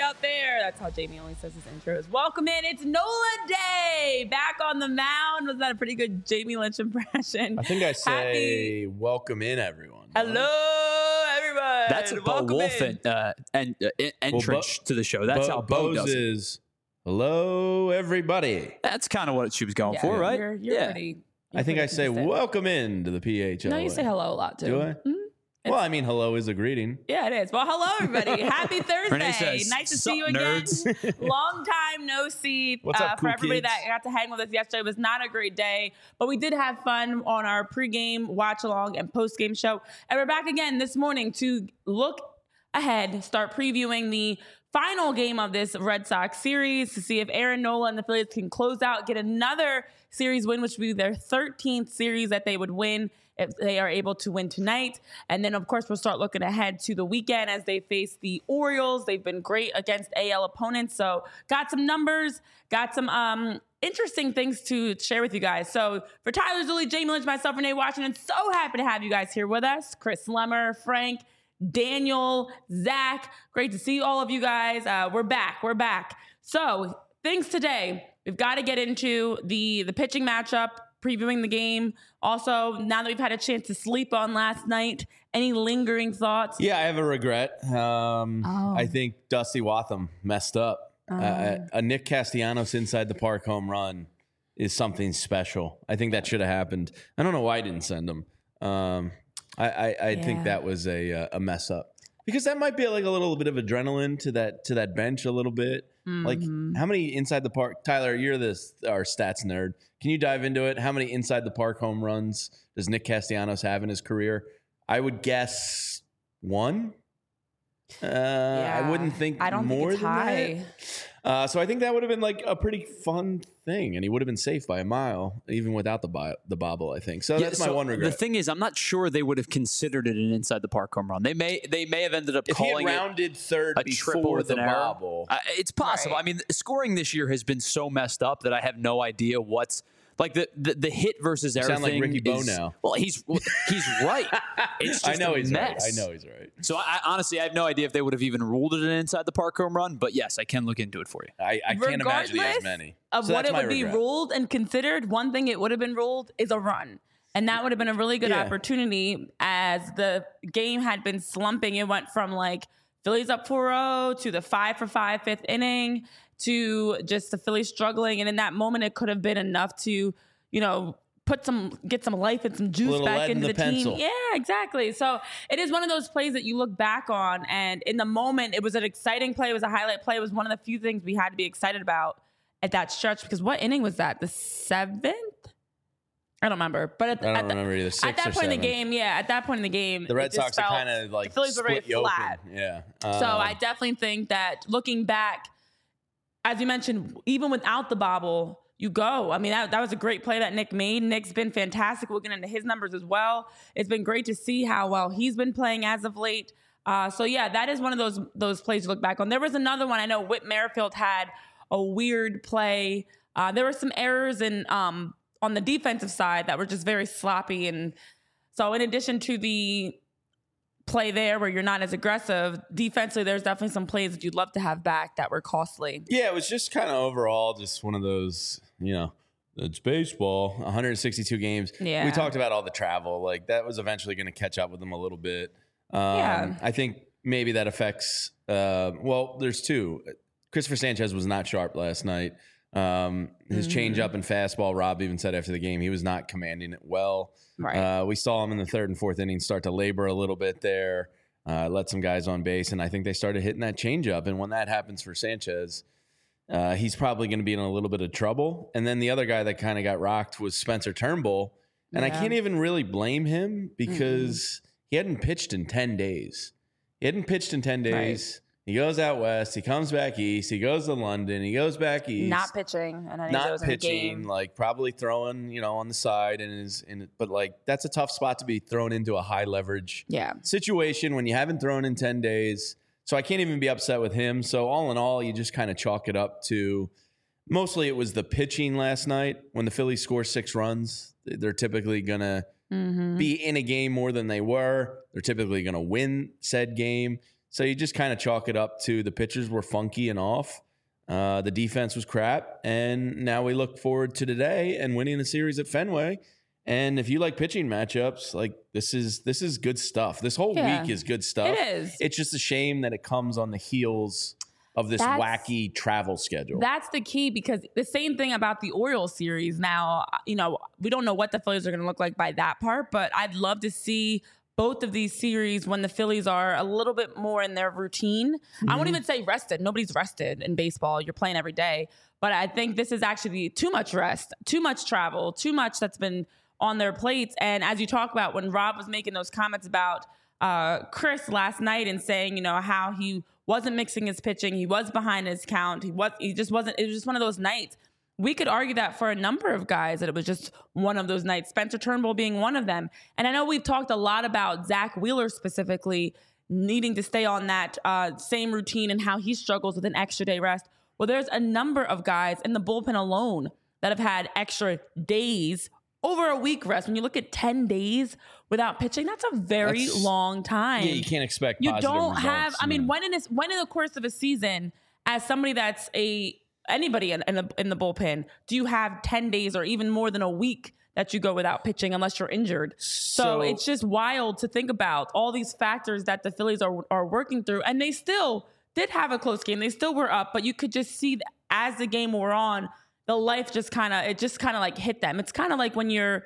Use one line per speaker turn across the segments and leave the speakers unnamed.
out there. That's how Jamie always says his intros. Welcome in. It's NOLA Day. Back on the mound. Was that a pretty good Jamie Lynch impression?
I think I say welcome in, everyone.
Hello, everyone.
That's a Bo Wolf entrance to the show. That's how Bo does it.
is hello, everybody.
That's kind of what she was going for, right?
You're pretty.
I think I say welcome in to the PHL.
No, you say hello a lot too.
Do I?
Mm-hmm.
Well, I mean, hello is a greeting.
Yeah, it is. Well, hello, everybody. Happy Thursday.
Says,
nice to see you again. Long time no see.
What's up,
for
cool
everybody
kids?
that got to hang with us yesterday. It was not a great day, but we did have fun on our pregame, watch along, and postgame show. And we're back again this morning to look ahead, start previewing the final game of this Red Sox series to see if Aaron Nola and the Phillies can close out, get another series win, which would be their 13th series that they would win if they are able to win tonight. And then, of course, we'll start looking ahead to the weekend as they face the Orioles. They've been great against AL opponents. So got some numbers, got some interesting things to share with you guys. So for Tyler Zulli, Jamie Lynch, myself, Renee Washington, so happy to have you guys here with us. Chris Lemmer, Frank, Daniel, Zach, great to see all of you guys. We're back. So things today, we've got to get into the pitching matchup, previewing the game. Also, now that we've had a chance to sleep on last night, any lingering thoughts?
Yeah, I have a regret. I think Dusty Watham messed up. A Nick Castellanos inside the park home run is something special. I think that should have happened. I don't know why I didn't send him. I think that was a mess up, because that might be like a little bit of adrenaline to that bench a little bit.
Mm-hmm.
Like, how many inside the park? Tyler, you're our stats nerd. Can you dive into it? How many inside the park home runs does Nick Castellanos have in his career? I would guess one. I wouldn't think
I don't
more
think it's
than
high.
that. So I think that would have been like a pretty fun thing, and he would have been safe by a mile, even without the bobble, I think. So that's my one regret.
The thing is, I'm not sure they would have considered it an inside the park home run. They may have ended up
if
calling
he had rounded third
a triple
before
with
the
an error.
bobble.
It's possible.
Right.
I mean, scoring this year has been so messed up that I have no idea what's like the hit versus error
Sound like
thing.
Ricky Bo now.
Well, he's right. It's just
I know
a
he's
mess.
right. I know he's right.
So I honestly, I have no idea if they would have even ruled it an inside the park home run. But yes, I can look into it for you.
I can't imagine he has
Regardless
many.
of
So
what
that's
it
my
would be
regret.
ruled and considered, one thing it would have been ruled is a run. And that would have been a really good
Yeah.
opportunity, as the game had been slumping. It went from like Phillies up 4-0 to the 5-for-5 fifth inning to just the Phillies struggling. And in that moment, it could have been enough to, get some life and some juice
little
back
lead in
into
the
the team.
pencil.
Yeah, exactly. So it is one of those plays that you look back on, and in the moment, it was an exciting play. It was a highlight play. It was one of the few things we had to be excited about at that stretch, because what inning was that? The 7th? I don't remember. But
I don't remember either.
at that point in the game,
The Red
it just
Sox are
felt-
kind of like
the Phillies were very
split you open.
flat.
Yeah.
So I definitely think that looking back, as you mentioned, even without the bobble, you go. I mean, that was a great play that Nick made. Nick's been fantastic. We'll get into his numbers as well. It's been great to see how well he's been playing as of late. So yeah, that is one of those plays to look back on. There was another one. I know Whit Merrifield had a weird play. There were some errors on the defensive side that were just very sloppy. And so in addition to the play there where you're not as aggressive, defensively, there's definitely some plays that you'd love to have back that were costly.
Yeah, it was just kind of overall just one of those, it's baseball, 162 games.
Yeah.
We talked about all the travel. Like, that was eventually going to catch up with them a little bit.
Yeah.
I think maybe that affects, there's two. Christopher Sanchez was not sharp last night. His changeup and fastball, Rob even said after the game, he was not commanding it well.
Right.
We saw him in the 3rd and 4th inning start to labor a little bit there, let some guys on base, and I think they started hitting that changeup. And when that happens for Sanchez, he's probably going to be in a little bit of trouble. And then the other guy that kind of got rocked was Spencer Turnbull, and I can't even really blame him because he hadn't pitched in 10 days.
Right.
He goes out west. He comes back east. He goes to London. He goes back east.
Not pitching. And I
Not pitching, like probably throwing, on the side, but like that's a tough spot to be thrown into a high leverage situation when you haven't thrown in 10 days. So I can't even be upset with him. So all in all, you just kind of chalk it up to mostly it was the pitching last night. When the Phillies score 6 runs, they're typically going to be in a game more than they were. They're typically going to win said game. So you just kind of chalk it up to the pitchers were funky and off. The defense was crap. And now we look forward to today and winning the series at Fenway. And if you like pitching matchups, like this is good stuff. This whole week is good stuff.
It is.
It's just a shame that it comes on the heels of this wacky travel schedule.
That's the key, because the same thing about the Orioles series. Now, we don't know what the Phillies are going to look like by that part, but I'd love to see both of these series when the Phillies are a little bit more in their routine. I won't even say rested. Nobody's rested in baseball. You're playing every day. But I think this is actually too much rest, too much travel, too much that's been on their plates. And as you talk about, when Rob was making those comments about Chris last night and saying, how he wasn't mixing his pitching, he was behind his count, he just wasn't. It was just one of those nights. We could argue that for a number of guys, that it was just one of those nights, Spencer Turnbull being one of them. And I know we've talked a lot about Zach Wheeler specifically needing to stay on that same routine and how he struggles with an extra day rest. Well, there's a number of guys in the bullpen alone that have had extra days, over a week rest. When you look at 10 days without pitching, that's a very long time.
Yeah, you can't expect
you
positive
don't
results.
have, I mean, when in the course of a season, as somebody that's anybody in the bullpen, do you have 10 days or even more than a week that you go without pitching unless you're injured? So it's just wild to think about all these factors that the Phillies are working through. And they still did have a close game. They still were up, but you could just see as the game wore on, the life just kind of like hit them. It's kind of like when you're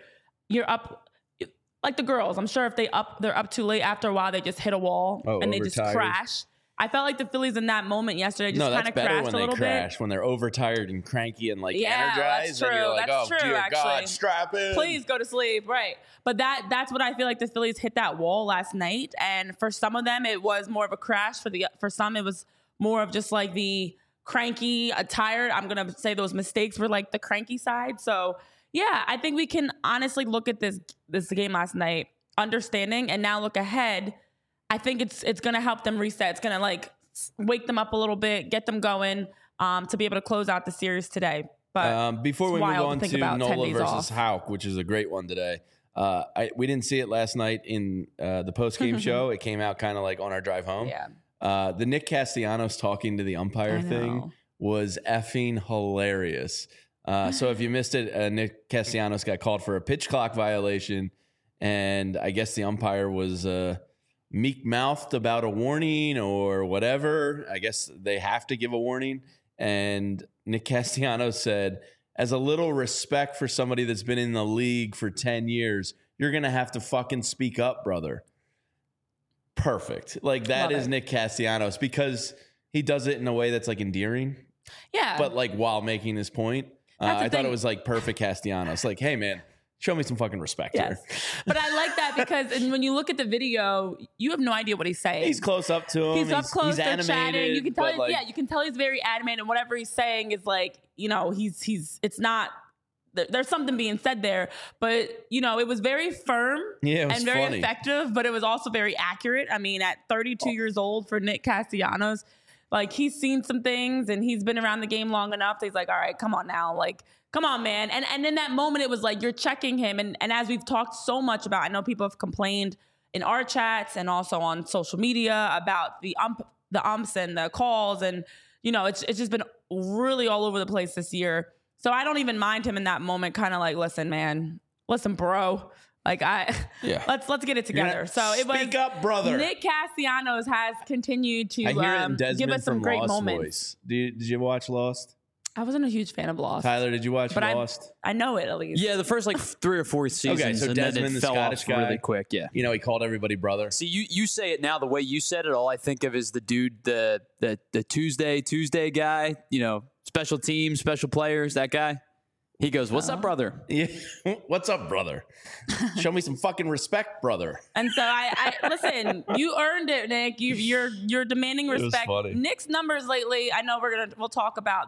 up, like the girls. I'm sure if they're up too late, after a while they just hit a wall and they just crash. I felt like the Phillies in that moment yesterday just kind of crashed a little bit.
When they're overtired and cranky and energized.
That's true.
And you're like,
that's true,
dear
actually.
God, strap in.
Please go to sleep. Right. But that's what I feel like the Phillies hit that wall last night. And for some of them, it was more of a crash. For some, it was more of just like the cranky, tired. I'm going to say those mistakes were like the cranky side. So yeah, I think we can honestly look at this game last night, understanding, and now look ahead. I think it's going to help them reset. It's going to like wake them up a little bit, get them going to be able to close out the series today. But
before we move on to Nola versus
off.
Houck, which is a great one today, we didn't see it last night in the post-game show. It came out kind of like on our drive home.
Yeah.
The Nick Castellanos talking to the umpire thing was effing hilarious. So if you missed it, Nick Castellanos got called for a pitch clock violation, and I guess the umpire was meek-mouthed about a warning or whatever. I guess they have to give a warning. And Nick Castellanos said, as a little respect for somebody that's been in the league for 10 years, you're going to have to fucking speak up, brother. Perfect. Like that is Nick Castellanos, because he does it in a way that's like endearing.
Yeah.
But like while making his point, I thought it was like perfect Castellanos. Like, hey man, show me some fucking respect here.
But I like that because when you look at the video, you have no idea what he's saying.
He's close up to him.
He's up close. They're
animated,
chatting. You can tell.
you
can tell he's very animated. And whatever he's saying is like, he's. It's not. There's something being said there, but it was very firm and very effective. But it was also very accurate. I mean, at 32 years old for Nick Castellanos, like he's seen some things and he's been around the game long enough. So he's like, all right, come on now, like. Come on, man. And in that moment, it was like you're checking him. And as we've talked so much about, I know people have complained in our chats and also on social media about the umps and the calls. And, it's just been really all over the place this year. So I don't even mind him in that moment, kind of like, listen, bro. Like let's get it together. So it was
speak up, brother.
Nick Castellanos has continued to give us some great moments.
Did you watch Lost?
I wasn't a huge fan of Lost.
Tyler, did you watch Lost?
I know it at least.
Yeah, the first like 3 or 4 seasons.
Okay, so
and
Desmond,
then it
the
fell
Scottish
off
guy,
really quick. Yeah,
he called everybody brother.
See, you say it now the way you said it. All I think of is the dude, the Tuesday guy. Special teams, special players. That guy. He goes, "What's up, brother?"
Yeah, what's up, brother? Show me some fucking respect, brother.
And so I listen. You earned it, Nick. You're demanding respect.
It was funny.
Nick's numbers lately. I know we'll talk about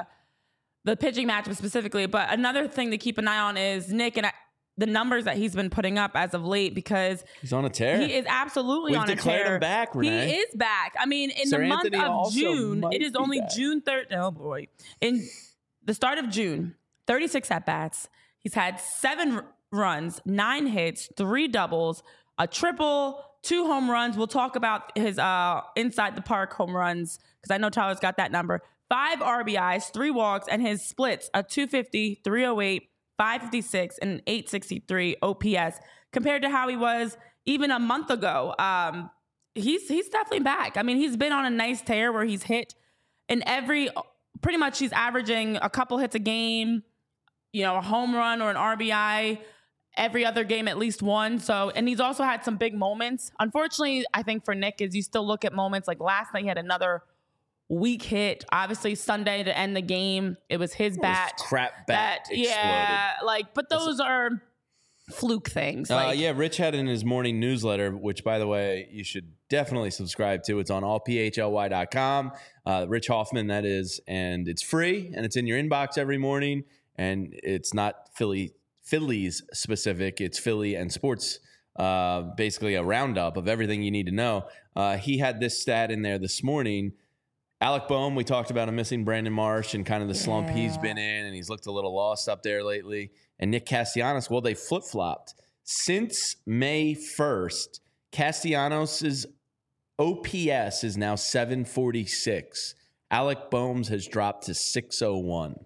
the pitching matchup specifically, but another thing to keep an eye on is Nick and the numbers that he's been putting up as of late, because
he's on a tear.
He is absolutely on a tear.
We've declared him back, Renee.
He is back. I mean, in the month of June, it is only June 3rd. Oh boy. In the start of June, 36 at-bats. He's had 7 runs, 9 hits, 3 doubles, a triple, 2 home runs. We'll talk about his inside the park home runs because I know Tyler's got that number. 5 RBIs, 3 walks, and his splits, a 250, 308, 556, and 863 OPS compared to how he was even a month ago. He's definitely back. I mean, he's been on a nice tear where he's hit in pretty much he's averaging a couple hits a game, a home run or an RBI every other game, at least one. So, and he's also had some big moments. Unfortunately, I think for Nick is you still look at moments like last night he had another weak hit. Obviously Sunday to end the game, it was his bat.
Crap bat exploded.
Yeah, but those are fluke things.
Rich had in his morning newsletter, which by the way, you should definitely subscribe to. It's on allphly.com. Rich Hoffman, that is, and it's free and it's in your inbox every morning. And it's not Phillies specific. It's Philly and sports, basically a roundup of everything you need to know. He had this stat in there this morning. Alec Boehm, we talked about him missing Brandon Marsh and kind of the slump he's been in, and he's looked a little lost up there lately. And Nick Castellanos, well, they flip-flopped. Since May 1st, Castellanos' OPS is now 746. Alec Boehm's has dropped to 601.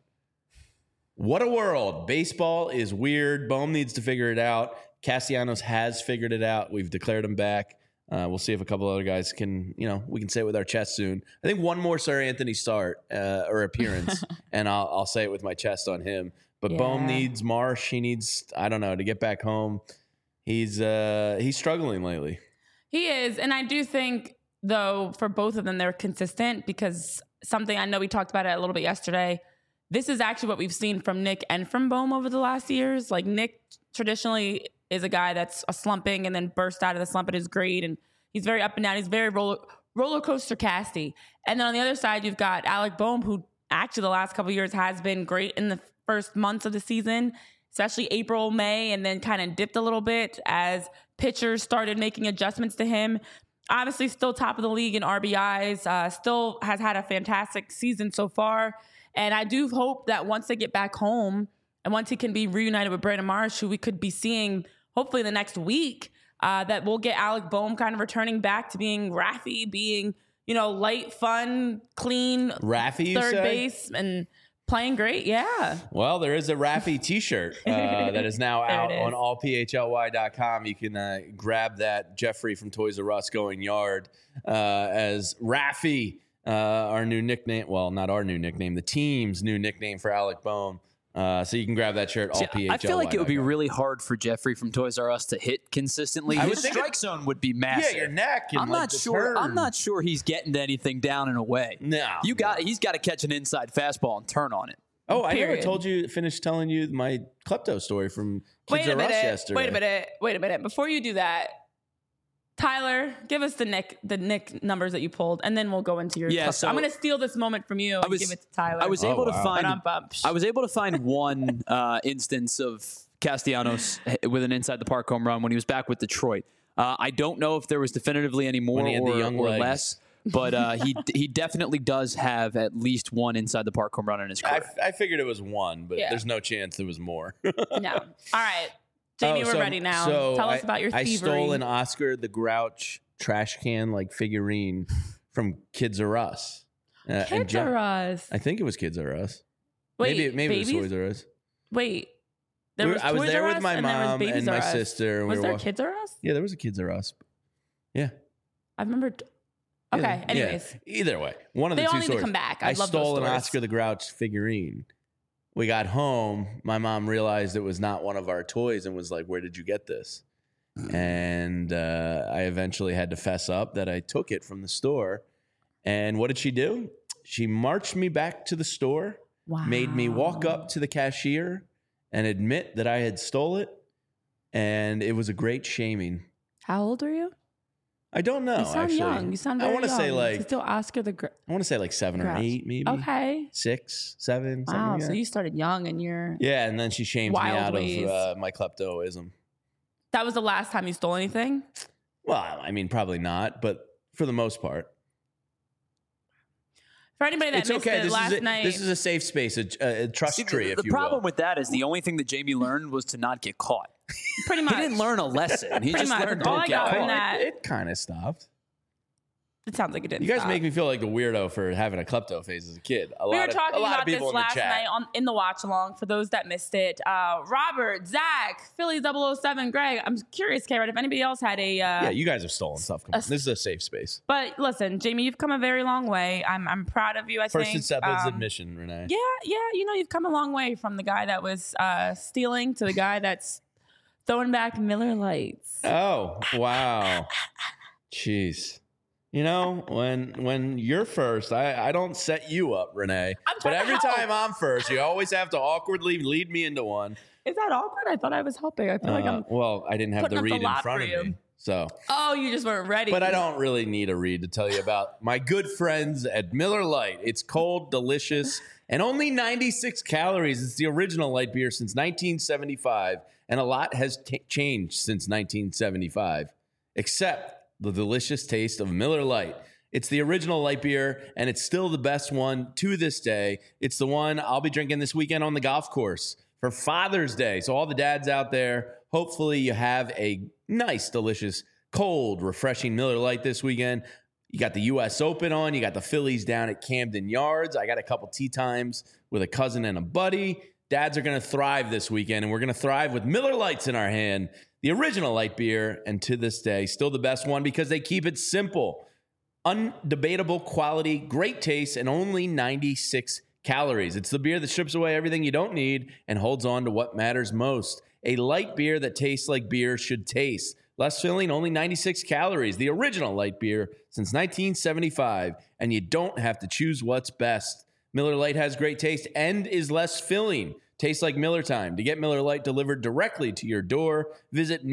What a world. Baseball is weird. Boehm needs to figure it out. Castellanos has figured it out. We've declared him back. We'll see if a couple other guys can, we can say it with our chest soon. I think one more Sir Anthony start or appearance, and I'll say it with my chest on him. But Boehm needs Marsh. He needs, I don't know, to get back home. He's struggling lately. He
is. And I do think, though, for both of them, they're consistent because something I know we talked about it a little bit yesterday. This is actually what we've seen from Nick and from Boehm over the last years. Like Nick traditionally is a guy that's slumping and then bursts out of the slump at his grade. And he's very up and down. He's very roller coaster casty. And then on the other side, you've got Alec Boehm, who actually the last couple of years has been great in the first months of the season, especially April, May, and then kind of dipped a little bit as pitchers started making adjustments to him. Obviously still top of the league in RBIs, still has had a fantastic season so far. And I do hope that once they get back home and once he can be reunited with Brandon Marsh, who we could be seeing hopefully the next week, that we'll get Alec Boehm kind of returning back to being Raffy, being, light, fun, clean
Raffy,
third base and playing great. Yeah.
Well, there is a Raffy t-shirt that is now out on allphly.com. You can grab that. Jeffrey from Toys R Us going yard as Raffy. Our new nickname, well, not our new nickname, the team's new nickname for Alec Boehm. So you can grab that shirt.
I feel like it would be really hard for Jeffrey from Toys R Us to hit consistently. His strike zone would be massive.
Yeah, your neck. And
I'm not sure he's getting to anything down and away.
No,
he's got to catch an inside fastball and turn on it.
Oh, I never finished telling you my klepto story from Kids R Us yesterday.
Wait a minute. Before you do that, Tyler, give us the Nick numbers that you pulled, and then we'll go into your. Yeah, so I'm going to steal this moment from you and give it to Tyler.
I was able to find one instance of Castellanos with an inside the park home run when he was back with Detroit. I don't know if there was definitively any more or less, but he definitely does have at least one inside the park home run in his career.
I figured it was one, but there's no chance there was more.
No. All right. Jamie, we're ready now.
So
tell us about your thievery.
I stole an Oscar the Grouch trash can figurine from Kids R Us.
Kids R Us.
I think it was Kids R Us.
Wait,
maybe it was Toys R Us.
Wait,
I was there with my mom and my sister. And
was there Kids R Us?
Yeah, there was a Kids R Us. Yeah,
I remember. Okay. Anyways,
either way, one of the two
they all need
stories.
to come back.
I stole an Oscar the Grouch figurine. We got home. My mom realized it was not one of our toys and was like, "Where did you get this?" And I eventually had to fess up that I took it from the store. And what did she do? She marched me back to the store, made me walk up to the cashier and admit that I had stole it. And it was a great shaming.
How old were you?
I don't know.
You sound young. You sound very young. I want to say
still
Oscar the
I want to say 7 or 8, maybe.
Okay.
6, 7.
Wow.
Like
so you started young and you're
and then she shamed me out of my kleptoism.
That was the last time you stole anything?
Well, I mean, probably not, but for the most part.
For anybody that missed it last night.
This is a safe space, a trust tree, if you will.
The problem with that is the only thing that Jamie learned was to not get caught.
Pretty much.
He didn't learn a lesson. He just learned
All
don't
I
get
got from
caught.
that,
It kind of stopped.
it sounds like it didn't.
You guys
stop.
make me feel like a weirdo for having a klepto phase as a kid.
We were talking
a lot
about
of people
this
in the
last
chat.
night in the watch along. For those that missed it, Robert, Zach, Philly 007, Greg. I'm curious, Karen, if anybody else had a.
Yeah, you guys have stolen stuff. Come on. This is a safe space.
But listen, Jamie, you've come a very long way. I'm proud of you. I
First
think.
acceptance admission, Renee.
Yeah. You know, you've come a long way from the guy that was stealing to the guy that's throwing back Miller Lights.
Oh, wow. Jeez. You know, when you're first, I don't set you up, Renee. But every time I'm first, you always have to awkwardly lead me into one.
Is that awkward? I thought I was helping. I feel like I'm.
Well, I didn't have the
putting up
read
the
in
lot
front
for
of
you.
me. So,
Oh, you just weren't ready.
but I don't really need a read to tell you about my good friends at Miller Lite. It's cold, delicious, and only 96 calories. It's the original light beer since 1975, and a lot has changed since 1975, except the delicious taste of Miller Lite. It's the original light beer, and it's still the best one to this day. It's the one I'll be drinking this weekend on the golf course for Father's Day. So all the dads out there, hopefully you have a nice, delicious, cold, refreshing Miller Lite this weekend. You got the U.S. Open on. You got the Phillies down at Camden Yards. I got a couple tee times with a cousin and a buddy. Dads are going to thrive this weekend, and we're going to thrive with Miller Lites in our hand. The original light beer, and to this day, still the best one because they keep it simple. Undebatable quality, great taste, and only 96 calories. It's the beer that strips away everything you don't need and holds on to what matters most. A light beer that tastes like beer should taste. Less filling, only 96 calories. The original light beer since 1975, and you don't have to choose what's best. Miller Lite has great taste and is less filling. Tastes like Miller time. To get Miller Lite delivered directly to your door, visit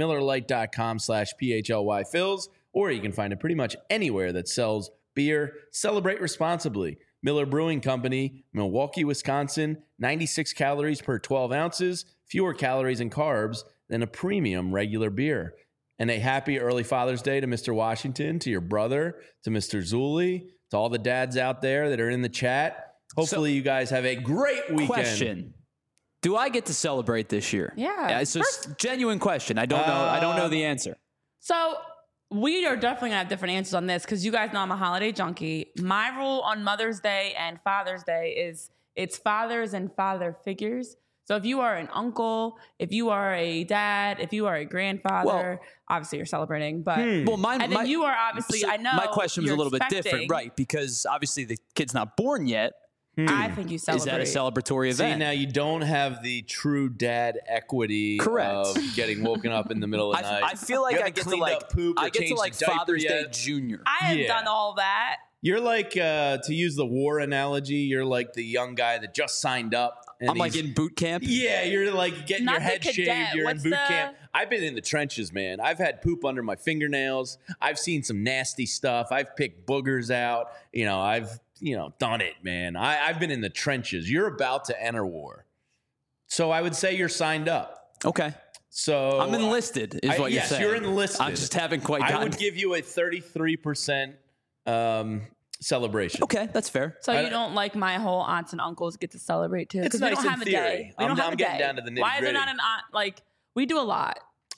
MillerLite.com/PHLYFills, or you can find it pretty much anywhere that sells beer. Celebrate responsibly. Miller Brewing Company, Milwaukee, Wisconsin, 96 calories per 12 ounces, fewer calories and carbs than a premium regular beer. And a happy early Father's Day to Mr. Washington, to your brother, to Mr. Zuli, to all the dads out there that are in the chat. Hopefully you guys have a great weekend.
Question. Do I get to celebrate this year?
Yeah.
It's just a genuine question. I don't know. I don't know the answer.
So we are definitely gonna have different answers on this because you guys know I'm a holiday junkie. My rule on Mother's Day and Father's Day is it's fathers and father figures. So if you are an uncle, if you are a dad, if you are a grandfather, obviously you're celebrating. But
Well, mine,
and then you are obviously. I know
my question was a
you're
little bit
expecting.
different, right? Because obviously the kid's not born yet.
I think you celebrate.
Is that a celebratory event?
See, now you don't have the true dad equity of getting woken up in the middle of the night.
I feel like
You
I
haven't
get to
cleaned
like
up poop or
I get to
changed
like
the diaper
Father's Day
yet.
Junior.
I have
Yeah.
done all that.
You're like, to use the war analogy, you're like the young guy that just signed up. And
I'm like in boot camp.
Yeah, you're like getting
Not
your
the
head
cadet.
shaved. You're
What's
in boot
the-
camp. I've been in the trenches, man. I've had poop under my fingernails. I've seen some nasty stuff. I've picked boogers out. I've done it, man. I've been in the trenches. You're about to enter war. So I would say you're signed up.
Okay.
So
I'm enlisted, is what you're
yes,
saying.
you're enlisted.
I just haven't quite gotten.
I would give you a 33% celebration.
Okay, that's fair.
So you don't like my whole aunts and uncles get to celebrate too?
It's
Because we
nice
don't
in
have a
theory.
day. We don't have
I'm
a
getting
day.
down to the
Why is there
nitty-gritty.
not an aunt? Like we do a lot.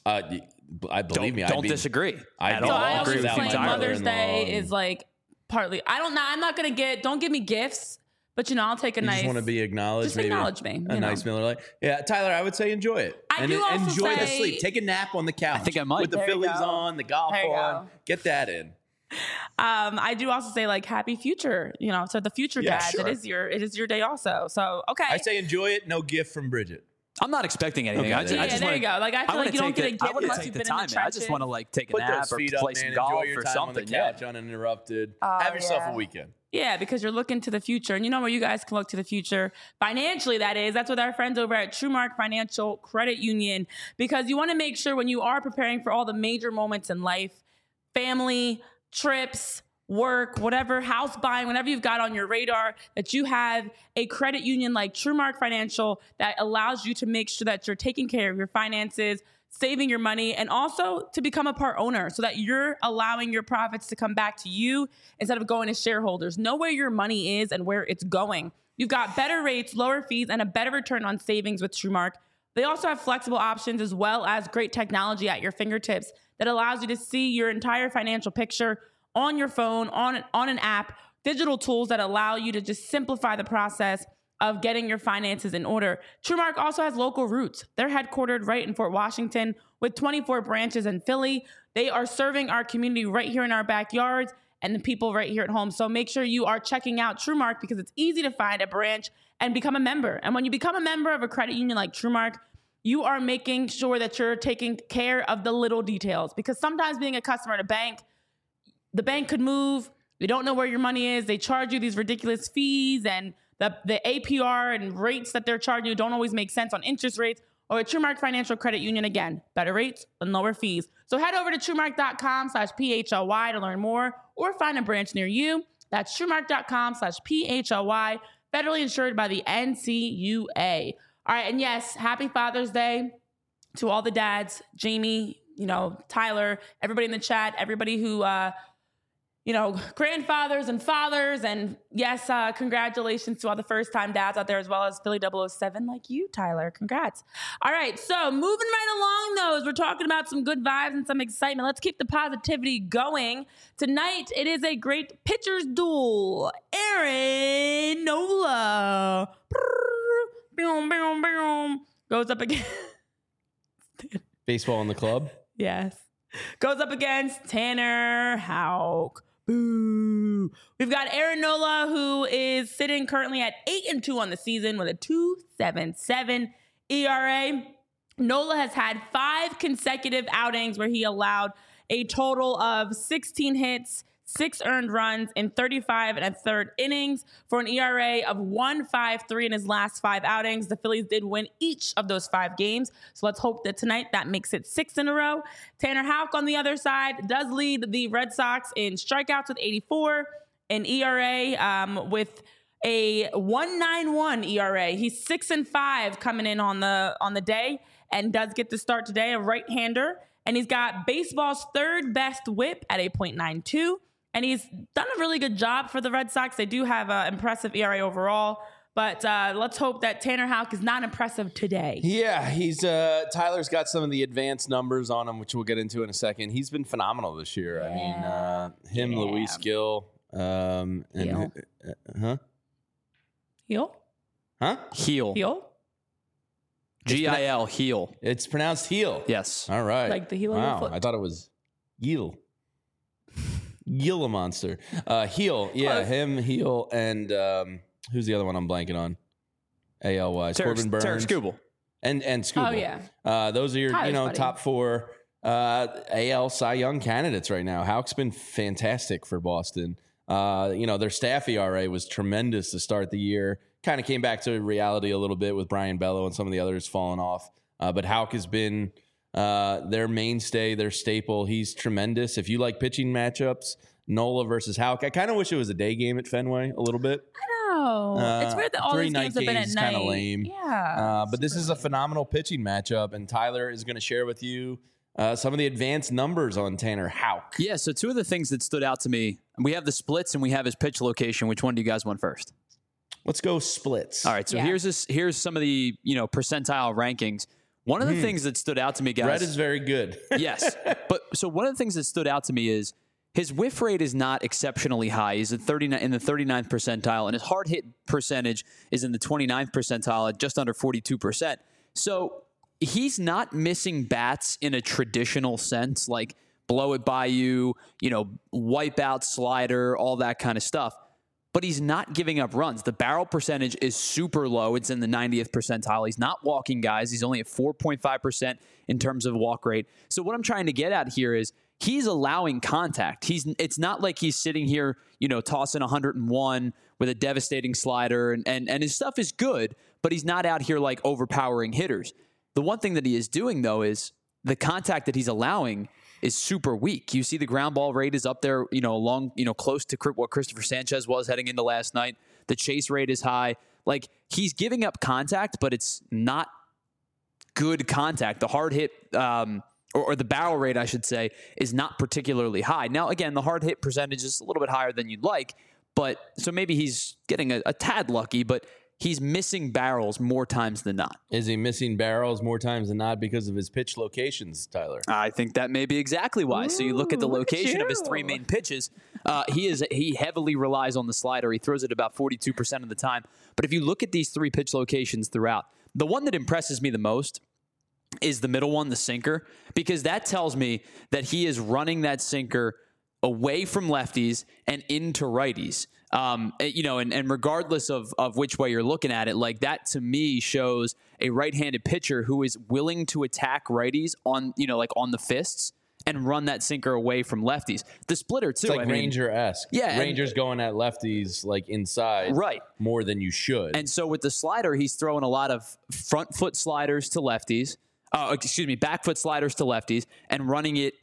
I believe me.
Don't disagree
I'd
at
be
So
all.
I
lost
agree
always
with
without
you
claim
my
entirely.
Mother's
mother-in-law
Day is like partly. I'm not gonna don't give me gifts, but I'll take a
You
nice.
just want to be acknowledged.
Just
maybe
acknowledge me,
A
you
nice
know.
Miller Lite. Yeah, Tyler, I would say enjoy it.
I do also
enjoy the
say-
sleep. Take a nap on the couch.
I think I might.
With the
There you
Phillies
go.
on, the golf
There you
on.
go.
Get that in.
I do also say like happy future. So the future
Yeah,
dads,
sure.
it is your day also. So okay.
I say enjoy it. No gift from Bridget.
I'm not expecting anything.
Okay,
I just,
there
I
you
just
there
wanna,
you go. Like I feel
wanna
like you don't
take
get a
the-
gift
I want to
unless
take
you've
the
been in
time,
the
man. I
trenches.
just want to like take a
Put
nap
those
or
feet
play
up,
some
man.
golf
Enjoy your
or
time
something.
on the couch uninterrupted. Have yourself a weekend.
Yeah, because you're looking to the future. And where you guys can look to the future financially, that is. That's with our friends over at TrueMark Financial Credit Union. Because you want to make sure when you are preparing for all the major moments in life, family, trips, work, whatever, house buying, whatever you've got on your radar, that you have a credit union like TrueMark Financial that allows you to make sure that you're taking care of your finances, saving your money, and also to become a part owner so that you're allowing your profits to come back to you instead of going to shareholders. Know where your money is and where it's going. You've got better rates, lower fees, and a better return on savings with TrueMark. They also have flexible options as well as great technology at your fingertips that allows you to see your entire financial picture on your phone, on an app, digital tools that allow you to just simplify the process of getting your finances in order. TrueMark also has local roots. They're headquartered right in Fort Washington with 24 branches in Philly. They are serving our community right here in our backyards and the people right here at home. So make sure you are checking out TrueMark because it's easy to find a branch and become a member. And when you become a member of a credit union like TrueMark, you are making sure that you're taking care of the little details, because sometimes being a customer at a bank, the bank could move. You don't know where your money is. They charge you these ridiculous fees, and the APR and rates that they're charging you don't always make sense on interest rates. Or at TrueMark Financial Credit Union, again, better rates and lower fees. So head over to TrueMark.com/PHLY to learn more or find a branch near you. That's TrueMark.com/PHLY, federally insured by the NCUA. All right, and yes, happy Father's Day to all the dads, Jamie, Tyler, everybody in the chat, everybody who, grandfathers and fathers. And yes, congratulations to all the first-time dads out there, as well as Philly 007 like you, Tyler. Congrats. All right, so moving right along, though, as we're talking about some good vibes and some excitement, let's keep the positivity going. Tonight, it is a great pitcher's duel. Aaron Nola goes up against...
Baseball in the club?
Yes. Goes up against Tanner Houck. Boo. We've got Aaron Nola, who is sitting currently at 8-2 on the season with a 2.77 ERA. Nola has had 5 consecutive outings where he allowed a total of 16 hits, 6 earned runs in 35 1/3 innings for an ERA of 1.53 in his last 5 outings. The Phillies did win each of those 5 games. So let's hope that tonight that makes it 6 in a row. Tanner Houck on the other side does lead the Red Sox in strikeouts with 84, an ERA with a 1.91 ERA. He's 6-5 coming in on the day and does get to start today, a right-hander. And he's got baseball's 3rd best whip at a .92. And he's done a really good job for the Red Sox. They do have an impressive ERA overall. But let's hope that Tanner Houck is not impressive today.
Yeah, he's Tyler's got some of the advanced numbers on him, which we'll get into in a second. He's been phenomenal this year.
Yeah.
I mean, Luis Gil. And
Heel?
Huh?
Heel.
Heel?
G-I-L, heel.
It's pronounced heel.
Yes.
All right.
Like the heel of your foot.
I thought it was Gil. Gila Monster. Heel. Yeah,
Close.
him, Heel, and who's the other one I'm blanking on? AL-wise. Corbin Burns.
Tarik Skubal.
And Skubal.
Oh, yeah.
Those are your
Tyler's
top 4 AL Cy Young candidates right now. Houck's been fantastic for Boston. Their staff ERA was tremendous to start the year. Kind of came back to reality a little bit with Brian Bello and some of the others falling off. But Houck has been their mainstay, their staple. He's tremendous. If you like pitching matchups, Nola versus Houck. I kind of wish it was a day game at Fenway a little bit.
I know. It's weird that all these games have been at night.
Kind of lame.
Yeah.
But this is a phenomenal pitching matchup, and Tyler is going to share with you some of the advanced numbers on Tanner Houck.
Yeah, so 2 of the things that stood out to me, we have the splits and we have his pitch location. Which one do you guys want first?
Let's go splits.
All right, so here's some of the percentile rankings. One of the things that stood out to me, guys.
Red is very good.
Yes, but so one of the things that stood out to me is his whiff rate is not exceptionally high. He's at 39 in the 39th percentile, and his hard hit percentage is in the 29th percentile at just under 42%. So he's not missing bats in a traditional sense, like blow it by you, wipe out slider, all that kind of stuff. But he's not giving up runs. The barrel percentage is super low. It's in the 90th percentile. He's not walking guys. He's only at 4.5% in terms of walk rate. So what I'm trying to get at here is he's allowing contact. It's not like he's sitting here, tossing 101 with a devastating slider, and his stuff is good, but he's not out here like overpowering hitters. The one thing that he is doing, though, is the contact that he's allowing is super weak. You see the ground ball rate is up there, close to what Christopher Sanchez was heading into last night. The chase rate is high. Like, he's giving up contact, but it's not good contact. The hard hit, or the barrel rate, I should say, is not particularly high. Now, again, the hard hit percentage is a little bit higher than you'd like, but so maybe he's getting a tad lucky, but he's missing barrels more times than not.
Is he missing barrels more times than not because of his pitch locations, Tyler?
I think that may be exactly why. So you look at the location of his 3 main pitches. He heavily relies on the slider. He throws it about 42% of the time. But if you look at these 3 pitch locations throughout, the one that impresses me the most is the middle one, the sinker, because that tells me that he is running that sinker away from lefties and into righties. And regardless of which way you're looking at it, like that to me shows a right-handed pitcher who is willing to attack righties on the fists and run that sinker away from lefties. The splitter too.
It's like Ranger-esque.
Yeah.
Ranger's going at lefties like inside more than you should.
And so with the slider, he's throwing a lot of front foot sliders to lefties. Back foot sliders to lefties and running it,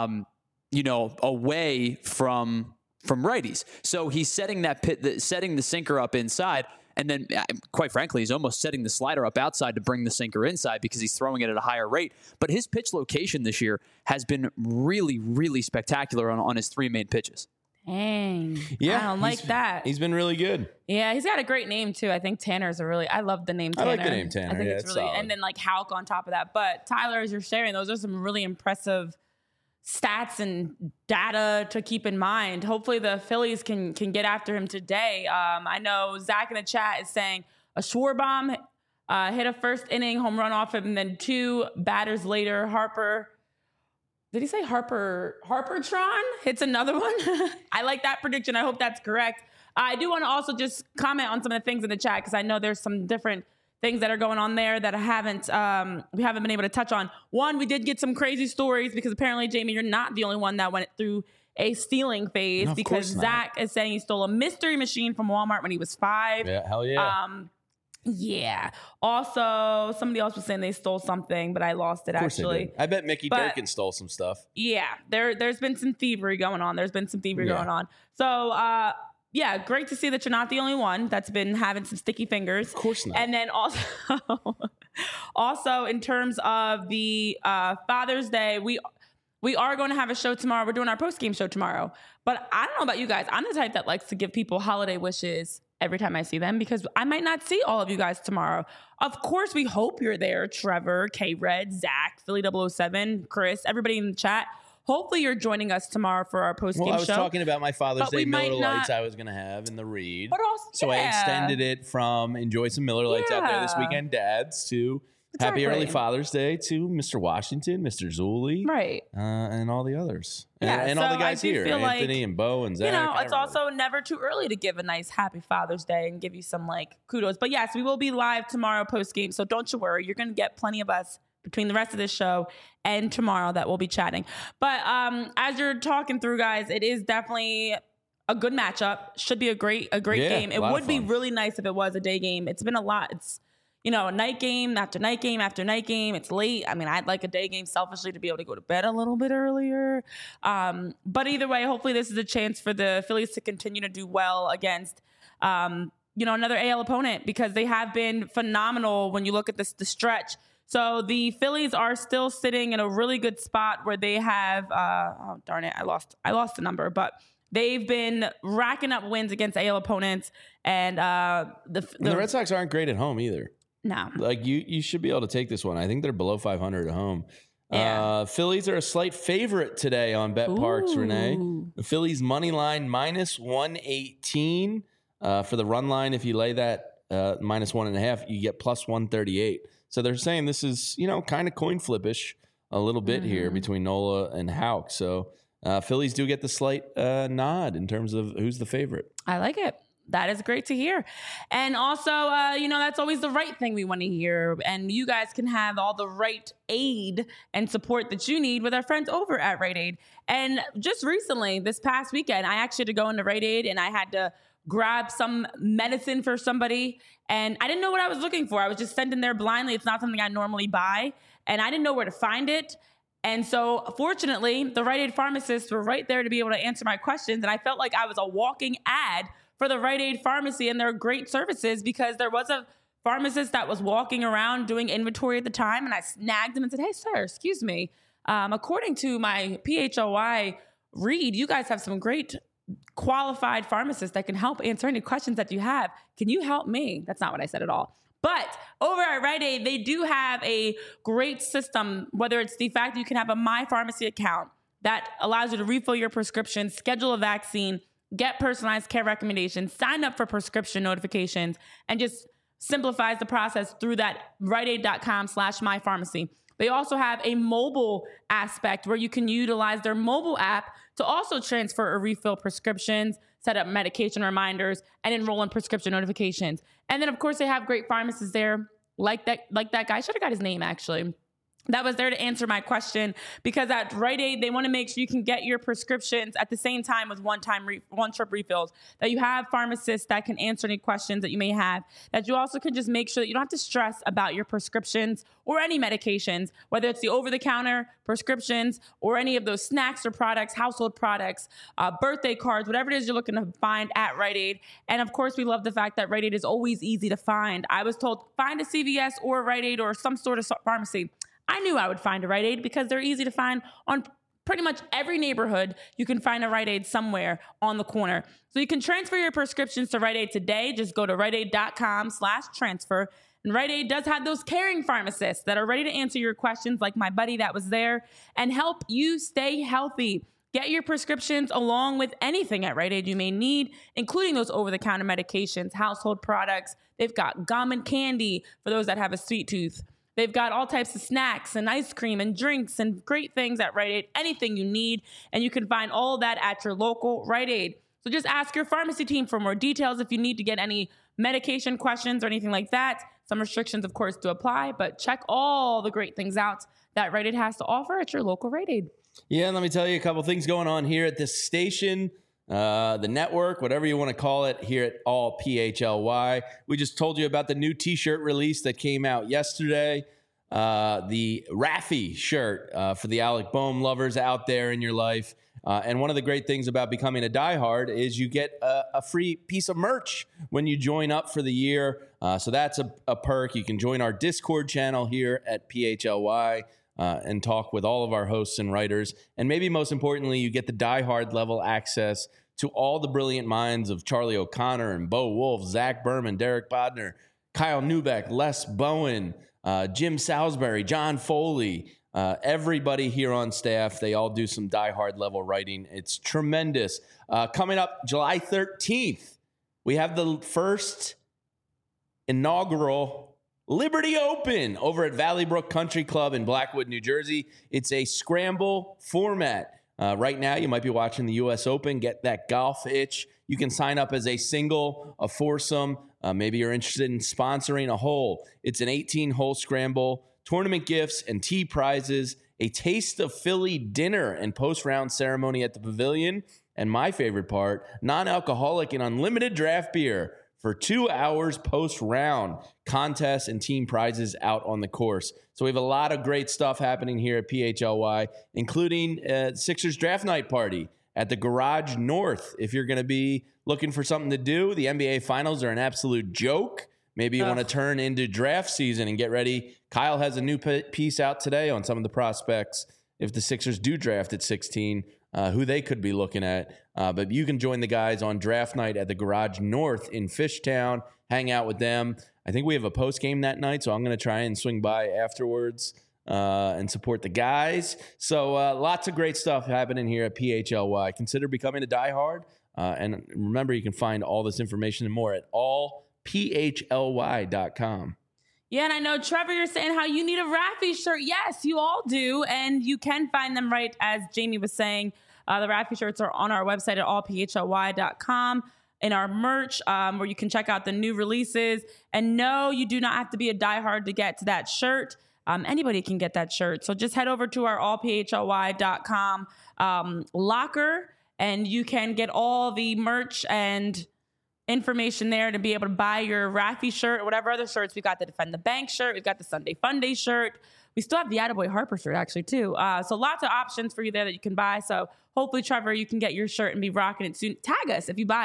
away from righties. So he's setting setting the sinker up inside. And then, quite frankly, he's almost setting the slider up outside to bring the sinker inside because he's throwing it at a higher rate. But his pitch location this year has been really, really spectacular on his 3 main pitches.
Dang.
Yeah.
I don't like that.
He's been really good.
Yeah, he's got a great name, too. I think Tanner's I love the name Tanner.
I like the name Tanner.
I think it's really,
solid.
and then like Houck on top of that. But Tyler, as you're sharing, those are some really impressive stats and data to keep in mind. Hopefully the Phillies can get after him today. I know Zach in the chat is saying a Schwarbaum hit a first inning home run off him, and then 2 batters later, Harper. Did he say Harpertron hits another one? I like that prediction. I hope that's correct. I do want to also just comment on some of the things in the chat because I know there's some different things that are going on there that we haven't been able to touch on. One, we did get some crazy stories because apparently, Jamie, you're not the only one that went through a stealing phase because Zach is saying he stole a mystery machine from Walmart when he was 5.
Yeah, hell yeah.
Yeah. Also, somebody else was saying they stole something, but I lost it actually.
I bet Mickey Durkin stole some stuff.
Yeah, there's been some thievery going on. Going on. So, yeah, great to see that you're not the only one that's been having some sticky fingers.
Of course not.
And then also in terms of the Father's Day, we are going to have a show tomorrow. We're doing our post-game show tomorrow. But I don't know about you guys. I'm the type that likes to give people holiday wishes every time I see them because I might not see all of you guys tomorrow. Of course, we hope you're there. Trevor, K-Red, Zach, Philly 007, Chris, everybody in the chat. Hopefully you're joining us tomorrow for our post-game show.
I was talking about my Father's Day Miller Lights I was going to have in the read.
But also,
so I extended it from enjoy some Miller Lights out there this weekend, dads, to happy early Father's Day to Mr. Washington, Mr. Zuli.
Right.
And all the others.
Yeah,
and all the guys here, Anthony and Bo and Zach.
It's also never too early to give a nice happy Father's Day and give you some kudos. But yes, we will be live tomorrow post-game, so don't you worry. You're going to get plenty of us between the rest of this show and tomorrow that we'll be chatting. But as you're talking through, guys, it is definitely a good matchup. Should be a great game. It would be really nice if it was a day game. It's been a lot. It's, a night game after night game after night game. It's late. I mean, I'd like a day game selfishly to be able to go to bed a little bit earlier. But either way, hopefully this is a chance for the Phillies to continue to do well against another AL opponent because they have been phenomenal when you look at the stretch. So the Phillies are still sitting in a really good spot where they have, oh, darn it, I lost the number, but they've been racking up wins against AL opponents. And the
Red Sox aren't great at home either.
No.
You should be able to take this one. I think they're below 500 at home.
Yeah.
Phillies are a slight favorite today on BetParx, Renee. The Phillies money line minus 118 for the run line. If you lay that minus 1.5, you get plus 138. So they're saying this is, kind of coin flippish a little bit here between Nola and Houck. So Phillies do get the slight nod in terms of who's the favorite.
I like it. That is great to hear. And also, that's always the right thing we want to hear. And you guys can have all the right aid and support that you need with our friends over at Rite Aid. And just recently, this past weekend, I actually had to go into Rite Aid and I had to grab some medicine for somebody. And I didn't know what I was looking for. I was just sent in there blindly. It's not something I normally buy. And I didn't know where to find it. And so, fortunately, the Rite Aid pharmacists were right there to be able to answer my questions. And I felt like I was a walking ad for the Rite Aid pharmacy and their great services because there was a pharmacist that was walking around doing inventory at the time. And I snagged him and said, "Hey, sir, excuse me. According to my PHOI read, you guys have some great qualified pharmacists that can help answer any questions that you have. Can you help me? That's not what I said at all. But over at Rite Aid, they do have a great system, whether it's the fact that you can have a My Pharmacy account that allows you to refill your prescription, schedule a vaccine, get personalized care recommendations, sign up for prescription notifications, and just simplifies the process through that riteaid.com/mypharmacy. They also have a mobile aspect where you can utilize their mobile app to also transfer or refill prescriptions, set up medication reminders, and enroll in prescription notifications. And then, of course, they have great pharmacists there, like that guy. I should have got his name, actually. That was there to answer my question, because at Rite Aid, they want to make sure you can get your prescriptions at the same time with one-trip refills, that you have pharmacists that can answer any questions that you may have, that you also can just make sure that you don't have to stress about your prescriptions or any medications, whether it's the over-the-counter prescriptions or any of those snacks or products, household products, birthday cards, whatever it is you're looking to find at Rite Aid. And of course, we love the fact that Rite Aid is always easy to find. I was told, find a CVS or a Rite Aid or some sort of pharmacy. I knew I would find a Rite Aid because they're easy to find on pretty much every neighborhood. You can find a Rite Aid somewhere on the corner. So you can transfer your prescriptions to Rite Aid today. Just go to riteaid.com/transfer. And Rite Aid does have those caring pharmacists that are ready to answer your questions, like my buddy that was there, and help you stay healthy. Get your prescriptions along with anything at Rite Aid you may need, including those over-the-counter medications, household products. They've got gum and candy for those that have a sweet tooth. They've got all types of snacks and ice cream and drinks and great things at Rite Aid, anything you need. And you can find all that at your local Rite Aid. So just ask your pharmacy team for more details if you need to get any medication questions or anything like that. Some restrictions, of course, do apply, but check all the great things out that Rite Aid has to offer at your local Rite Aid.
Yeah, let me tell you a couple things going on here at this station. The network, whatever you want to call it, here at All PHLY. We just told you about the new t-shirt release that came out yesterday. The Raffi shirt for the Alec Bohm lovers out there in your life. And one of the great things about becoming a diehard is you get a free piece of merch when you join up for the year. So that's a perk. You can join our Discord channel here at PHLY and talk with all of our hosts and writers. And maybe most importantly, you get the diehard level access to all the brilliant minds of Charlie O'Connor and Bo Wolf, Zach Berman, Derek Bodner, Kyle Neubeck, Les Bowen, Jim Salisbury, John Foley, everybody here on staff. They all do some diehard level writing. It's tremendous. Coming up July 13th, we have the first inaugural Liberty Open over at Valley Brook Country Club in Blackwood, New Jersey. It's a scramble format. Right now, you might be watching the U.S. Open, get that golf itch. You can sign up as a single, a foursome. Maybe you're interested in sponsoring a hole. It's an 18-hole scramble, tournament gifts and tee prizes, a Taste of Philly dinner and post-round ceremony at the Pavilion, and my favorite part, non-alcoholic and unlimited draft beer for 2 hours post-round, contests and team prizes out on the course. So we have a lot of great stuff happening here at PHLY, including Sixers draft night party at the Garage North. If you're going to be looking for something to do, the NBA Finals are an absolute joke. Maybe you want to turn into draft season and get ready. Kyle has a new piece out today on some of the prospects if the Sixers do draft at 16, who they could be looking at. But you can join the guys on draft night at the Garage North in Fishtown, hang out with them. I think we have a post game that night, so I'm going to try and swing by afterwards and support the guys. So lots of great stuff happening here at PHLY. Consider becoming a diehard. And remember, you can find all this information and more at allphly.com.
Yeah, and I know, Trevor, you're saying how you need a Raffi shirt. Yes, you all do, and you can find them right as Jamie was saying. The Raffi shirts are on our website at allphly.com in our merch, where you can check out the new releases. And no, you do not have to be a diehard to get to that shirt. Anybody can get that shirt. So just head over to our allphly.com locker, and you can get all the merch and information there to be able to buy your Raffi shirt or whatever other shirts. We've got the Defend the Bank shirt. We've got the Sunday Fun Day shirt. We still have the Attaboy Harper shirt, actually, too. So lots of options for you there that you can buy. So hopefully, Trevor, you can get your shirt and be rocking it soon. Tag us if you buy it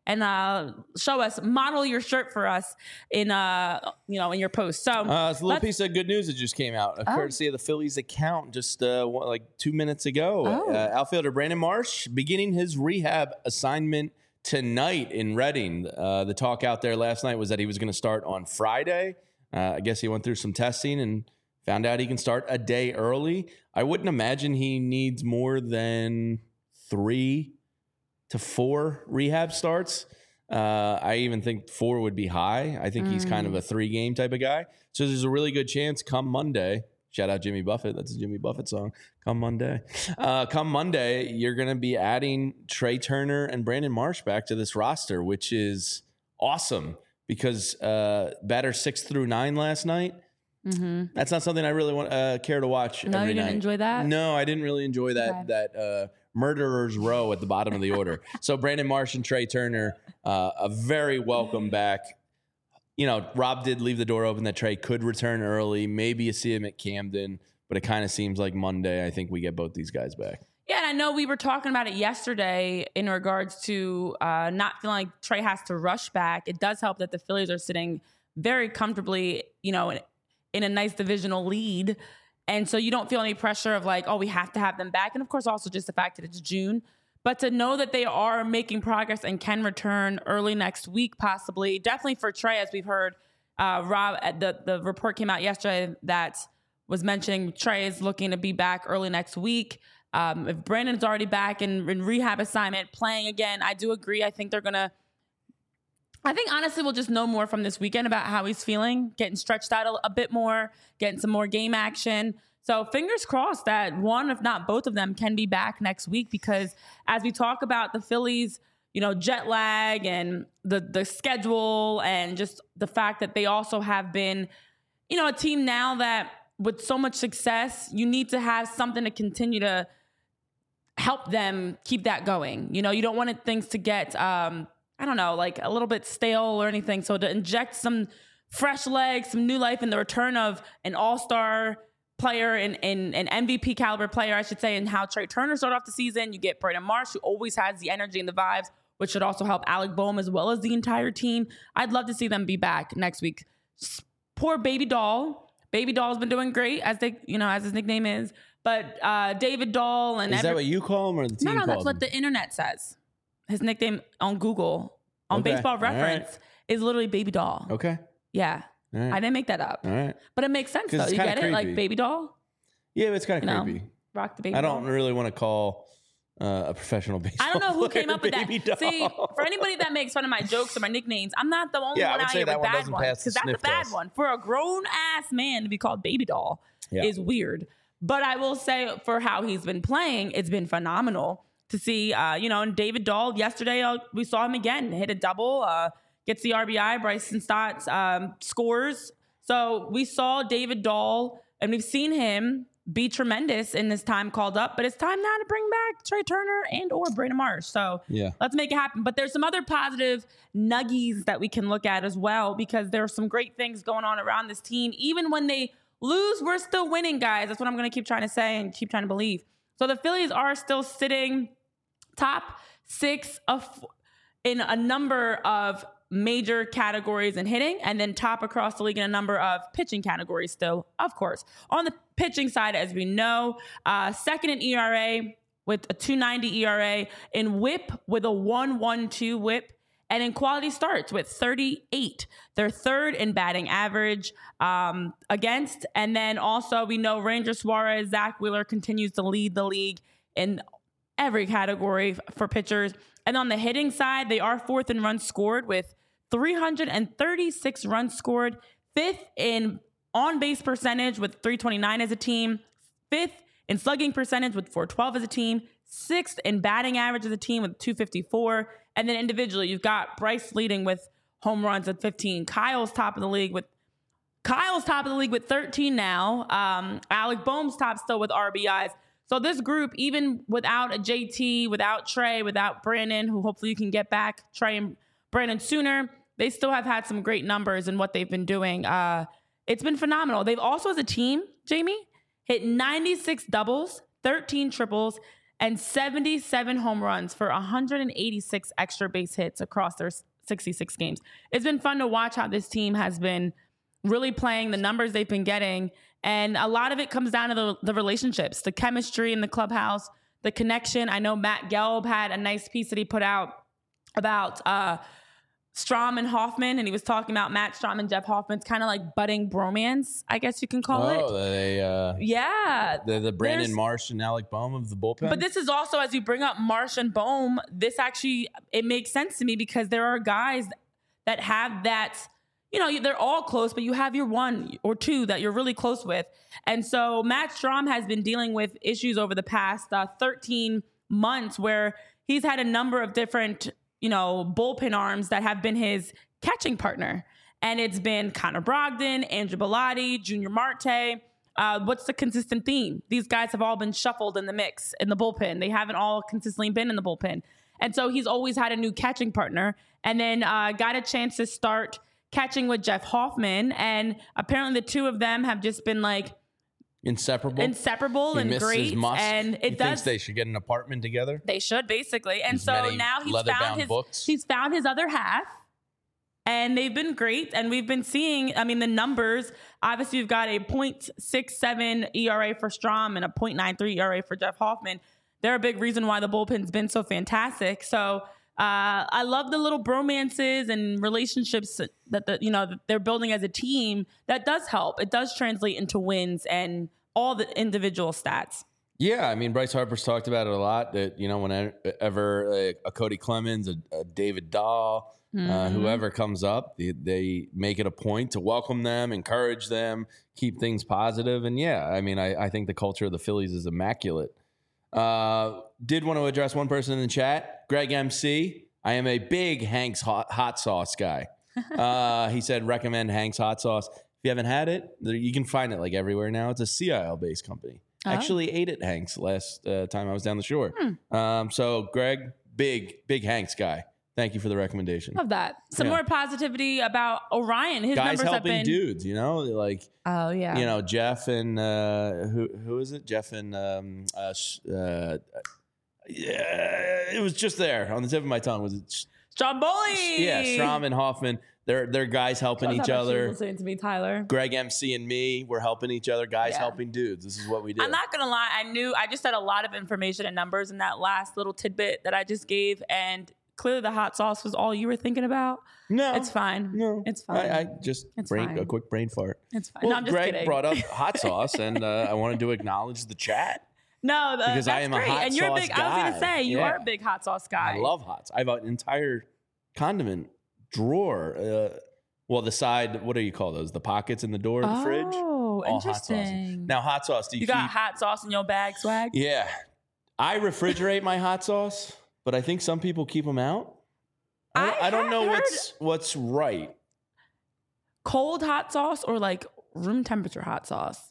and show us, model your shirt for us in in your post. So
it's a little piece of good news that just came out, courtesy of the Phillies account just like 2 minutes ago. Outfielder Brandon Marsh beginning his rehab assignment tonight in Reading. The talk out there last night was that he was going to start on Friday. I guess he went through some testing and found out he can start a day early. I wouldn't imagine he needs more than 3 to 4 rehab starts. I even think 4 would be high. I think he's kind of a 3-game type of guy. So there's a really good chance come Monday. Shout out Jimmy Buffett. That's a Jimmy Buffett song. Come Monday. Come Monday, you're going to be adding Trey Turner and Brandon Marsh back to this roster, which is awesome because batter 6 through 9 last night. Mm-hmm. That's not something I really want care to watch.
No,
every
you didn't
night.
Enjoy that?
No, I didn't really enjoy that. That murderer's row at the bottom of the order. So Brandon Marsh and Trey Turner, a very welcome back. You know, Rob did leave the door open that Trey could return early. Maybe you see him at Camden, but it kind of seems like Monday. I think we get both these guys back.
Yeah, and I know we were talking about it yesterday in regards to not feeling like Trey has to rush back. It does help that the Phillies are sitting very comfortably, in a nice divisional lead. And so you don't feel any pressure of like, oh, we have to have them back. And of course, also just the fact that it's June. But to know that they are making progress and can return early next week, possibly, definitely for Trey, as we've heard, Rob, the report came out yesterday that was mentioning Trey is looking to be back early next week. If Brandon's already back in rehab assignment, playing again, I do agree. I think honestly we'll just know more from this weekend about how he's feeling, getting stretched out a bit more, getting some more game action. So fingers crossed that one, if not both of them, can be back next week, because as we talk about the Phillies, jet lag and the schedule and just the fact that they also have been, a team now that with so much success, you need to have something to continue to help them keep that going. You don't want things to get, like a little bit stale or anything. So to inject some fresh legs, some new life in the return of an all-star player and an MVP caliber player, I should say, and how Trey Turner started off the season. You get Brandon Marsh, who always has the energy and the vibes, which should also help Alec Boehm as well as the entire team. I'd love to see them be back next week. Poor Baby Doll. Baby Doll's been doing great, as his nickname is. But David Dahl and
is that what you call him or the team?
No, that's what the internet says. His nickname on Google, on Baseball Reference, is literally Baby Doll.
Okay.
Yeah.
Right.
I didn't make that up.
All right.
But it makes sense, though. You get it? Like Baby Doll?
Yeah, it's kind of creepy.
Rock the Baby
Doll. I
don't
really want to call a professional baseball
I don't know who came up with that.
Doll.
See, for anybody that makes fun of my jokes or my nicknames, I'm not the only one out here with bad ones. Because that's a bad one. For a grown-ass man to be called Baby Doll is weird. But I will say, for how he's been playing, it's been phenomenal to see. And David Dahl, yesterday, we saw him again, hit a double, gets the RBI. Bryson Stott scores. So we saw David Dahl, and we've seen him be tremendous in this time called up. But it's time now to bring back Trey Turner and or Brandon Marsh. So let's make it happen. But there's some other positive nuggies that we can look at as well, because there are some great things going on around this team. Even when they lose, we're still winning, guys. That's what I'm going to keep trying to say and keep trying to believe. So the Phillies are still sitting top 6 in a number of major categories in hitting, and then top across the league in a number of pitching categories still, of course. On the pitching side, as we know, second in ERA with a 2.90 ERA, in whip with a 1.12 whip, and in quality starts with 38. They're third in batting average against. And then also we know Ranger Suarez, Zach Wheeler continues to lead the league in every category for pitchers. And on the hitting side, they are fourth in runs scored with 336 runs scored, fifth in on-base percentage with 329 as a team, fifth in slugging percentage with 412 as a team, sixth in batting average as a team with 254. And then individually, you've got Bryce leading with home runs at 15. Kyle's top of the league with 13 now. Alec Boehm's top still with RBIs. So this group, even without a JT, without Trey, without Brandon, who hopefully you can get back, Trey and Brandon sooner, they still have had some great numbers in what they've been doing. It's been phenomenal. They've also, as a team, Jamie, hit 96 doubles, 13 triples, and 77 home runs for 186 extra base hits across their 66 games. It's been fun to watch how this team has been really playing, the numbers they've been getting. And a lot of it comes down to the relationships, the chemistry in the clubhouse, the connection. I know Matt Gelb had a nice piece that he put out about Strahm and Hoffman, and he was talking about Matt Strahm and Jeff Hoffman's kind of like budding bromance, I guess you can call it.
Oh,
yeah.
The Brandon Marsh and Alec Bohm of the bullpen.
But this is also, as you bring up Marsh and Bohm, this actually, it makes sense to me because there are guys that have that, you know, they're all close, but you have your one or two that you're really close with. And so Matt Strahm has been dealing with issues over the past 13 months where he's had a number of different, you know, bullpen arms that have been his catching partner. And it's been Connor Brogdon, Andrew Bellotti, Junior Marte. What's the consistent theme? These guys have all been shuffled in the mix in the bullpen. They haven't all consistently been in the bullpen. And so he's always had a new catching partner, and then got a chance to start catching with Jeff Hoffman. And apparently the two of them have just been like inseparable and great. And it does.
Thinks they should get an apartment together.
They should, basically. And so now he's found his other half, and they've been great. And we've been seeing, I mean, the numbers. Obviously, you've got a .67 ERA for Strahm and a .93 ERA for Jeff Hoffman. They're a big reason why the bullpen's been so fantastic. So I love the little bromances and relationships that they're building as a team. That does help. It does translate into wins and all the individual stats.
Yeah, I mean, Bryce Harper's talked about it a lot. That, you know, whenever a Cody Clemens, a David Dahl, whoever comes up, they make it a point to welcome them, encourage them, keep things positive. And yeah, I mean, I think the culture of the Phillies is immaculate. Did want to address one person in the chat, Greg MC. I am a big Hank's hot sauce guy. He said, recommend Hank's hot sauce. If you haven't had it, you can find it like everywhere now. It's a CIL-based company. I actually ate at Hank's last time I was down the shore. So Greg, big Hank's guy. Thank you for the recommendation.
Love that. Some more positivity about Orion. His
guys
numbers
helping
have been
dudes, you know, like
you
know, Jeff and who is it? Jeff and it was just there on the tip of my tongue. Was it
Stromboli?
Yeah, Strahm and Hoffman. They're guys helping each other.
Listening to me, Tyler.
Greg MC and me, we're helping each other. Guys helping dudes. This is what we do.
I'm not gonna lie. I just had a lot of information and numbers in that last little tidbit that I just gave, and clearly the hot sauce was all you were thinking about.
No,
it's fine.
No,
it's fine.
I just a quick brain fart.
It's fine.
Well,
no, I'm just
Greg
kidding.
brought up hot sauce, and I wanted to acknowledge the chat.
No,
because I am
great.
a hot
and you're
sauce
big.
guy.
I was gonna say you are a big hot sauce guy.
I love hots. I have an entire condiment drawer. Well, the side. What do you call those? The pockets in the door of the fridge.
Oh, interesting.
Now, hot sauce. Do you
got hot sauce in your bag, swag?
Yeah, I refrigerate my hot sauce, but I think some people keep them out. I don't know what's right.
Cold hot sauce or like room temperature hot sauce?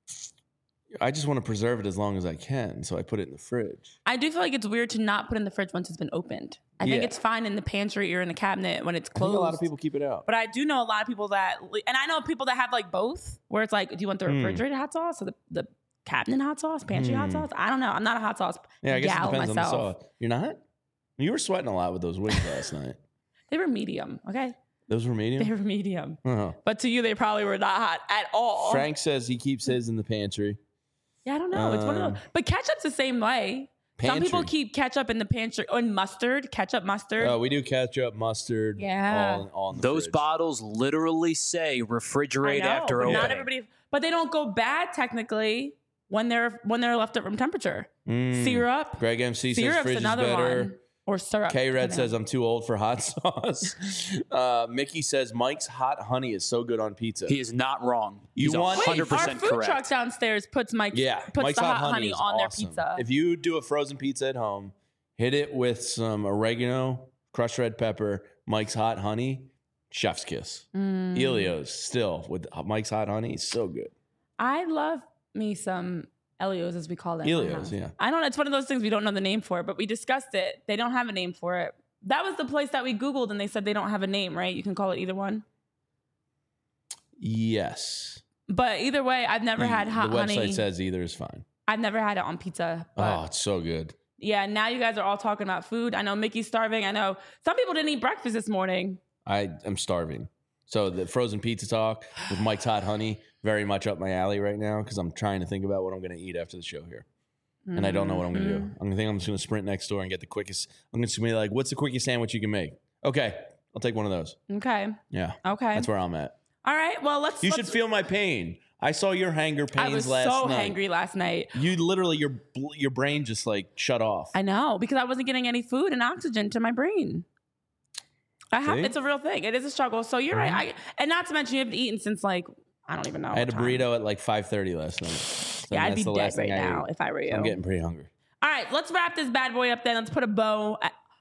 I just want to preserve it as long as I can, so I put it in the fridge.
I do feel like it's weird to not put it in the fridge once it's been opened. I think it's fine in the pantry or in the cabinet when it's closed.
I think a lot of people keep it out.
But I do know a lot of people and I know people that have like both, where it's like, do you want the refrigerated hot sauce or the cabinet hot sauce, pantry hot sauce? I don't know. I'm not a hot sauce
I guess
gal
it depends
myself.
on the sauce. You're not? You were sweating a lot with those wings last night.
They were medium, okay?
Those were medium?
They were medium.
Uh-huh.
But to you, they probably were not hot at all.
Frank says he keeps his in the pantry.
Yeah, I don't know. It's one of those. But ketchup's the same way.
Pantry.
Some people keep ketchup in the pantry. Or mustard, ketchup, mustard.
Oh, we do ketchup, mustard.
Yeah.
All in the
Those
fridge.
bottles literally say refrigerate after opening.
Not everybody. But they don't go bad technically when they're left at room temperature. Syrup.
Greg MC says fridge is better.
One. Or syrup.
K-Red says I'm too old for hot sauce. Mickey says Mike's hot honey is so good on pizza.
He is not wrong.
He's
100%
our food
correct.
truck downstairs puts
Mike's
the hot honey on their pizza.
If you do a frozen pizza at home, hit it with some oregano, crushed red pepper, Mike's hot honey, chef's kiss. Elio's still with Mike's hot honey, so good.
I love me some Elios, as we call them.
Elios, yeah.
I don't know. It's one of those things we don't know the name for, but we discussed it. They don't have a name for it. That was the place that we Googled, and they said they don't have a name, right? You can call it either one.
Yes.
But either way, I've never had hot honey.
The website says either is fine.
I've never had it on pizza.
Oh, it's so good.
Yeah, now you guys are all talking about food. I know Mickey's starving. I know some people didn't eat breakfast this morning.
I am starving. So the frozen pizza talk with Mike's Hot Honey, very much up my alley right now because I'm trying to think about what I'm going to eat after the show here. And I don't know what I'm going to do. I'm just going to sprint next door and get the quickest. I'm just going to be like, what's the quickest sandwich you can make? Okay, I'll take one of those.
Okay.
Yeah.
Okay.
That's where I'm at.
All right. Well, let's.
You should feel my pain. I saw your hanger pains last night.
I was so hangry last night.
You literally, your brain just like shut off.
I know, because I wasn't getting any food and oxygen to my brain. It's a real thing. It is a struggle. So you're right. And not to mention you haven't eaten since like, I don't even know.
I had a burrito at like 5:30 last night. So
yeah, I'd be dead right now if I were you.
I'm getting pretty hungry.
All right, let's wrap this bad boy up then. Let's put a bow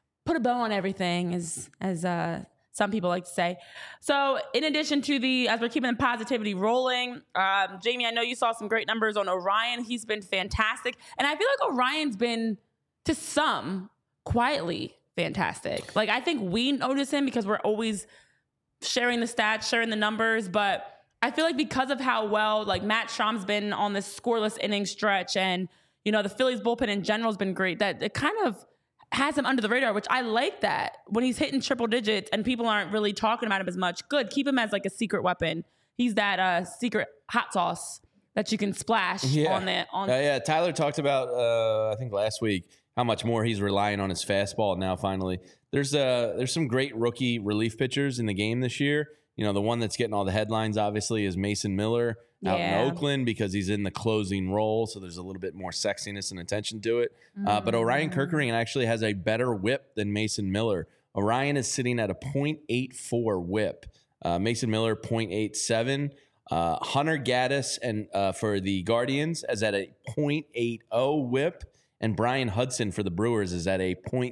on everything, as some people like to say. So in addition to as we're keeping the positivity rolling, Jamie, I know you saw some great numbers on Orion. He's been fantastic. And I feel like Orion's been, to some, quietly fantastic. Like, I think we notice him because we're always sharing the stats, sharing the numbers, but I feel like because of how well, like, Matt Strom's been on this scoreless inning stretch and, you know, the Phillies bullpen in general has been great, that it kind of has him under the radar, which I like that. When he's hitting triple digits and people aren't really talking about him as much, good. Keep him as like a secret weapon. He's that secret hot sauce that you can splash on the.
Yeah, Tyler talked about, I think last week, how much more he's relying on his fastball now finally. There's some great rookie relief pitchers in the game this year. You know, the one that's getting all the headlines, obviously, is Mason Miller out in Oakland because he's in the closing role. So there's a little bit more sexiness and attention to it. But Orion Kerkering actually has a better whip than Mason Miller. Orion is sitting at a .84 whip. Mason Miller, .87. Hunter Gaddis and for the Guardians is at a .80 whip. And Brian Hudson for the Brewers is at a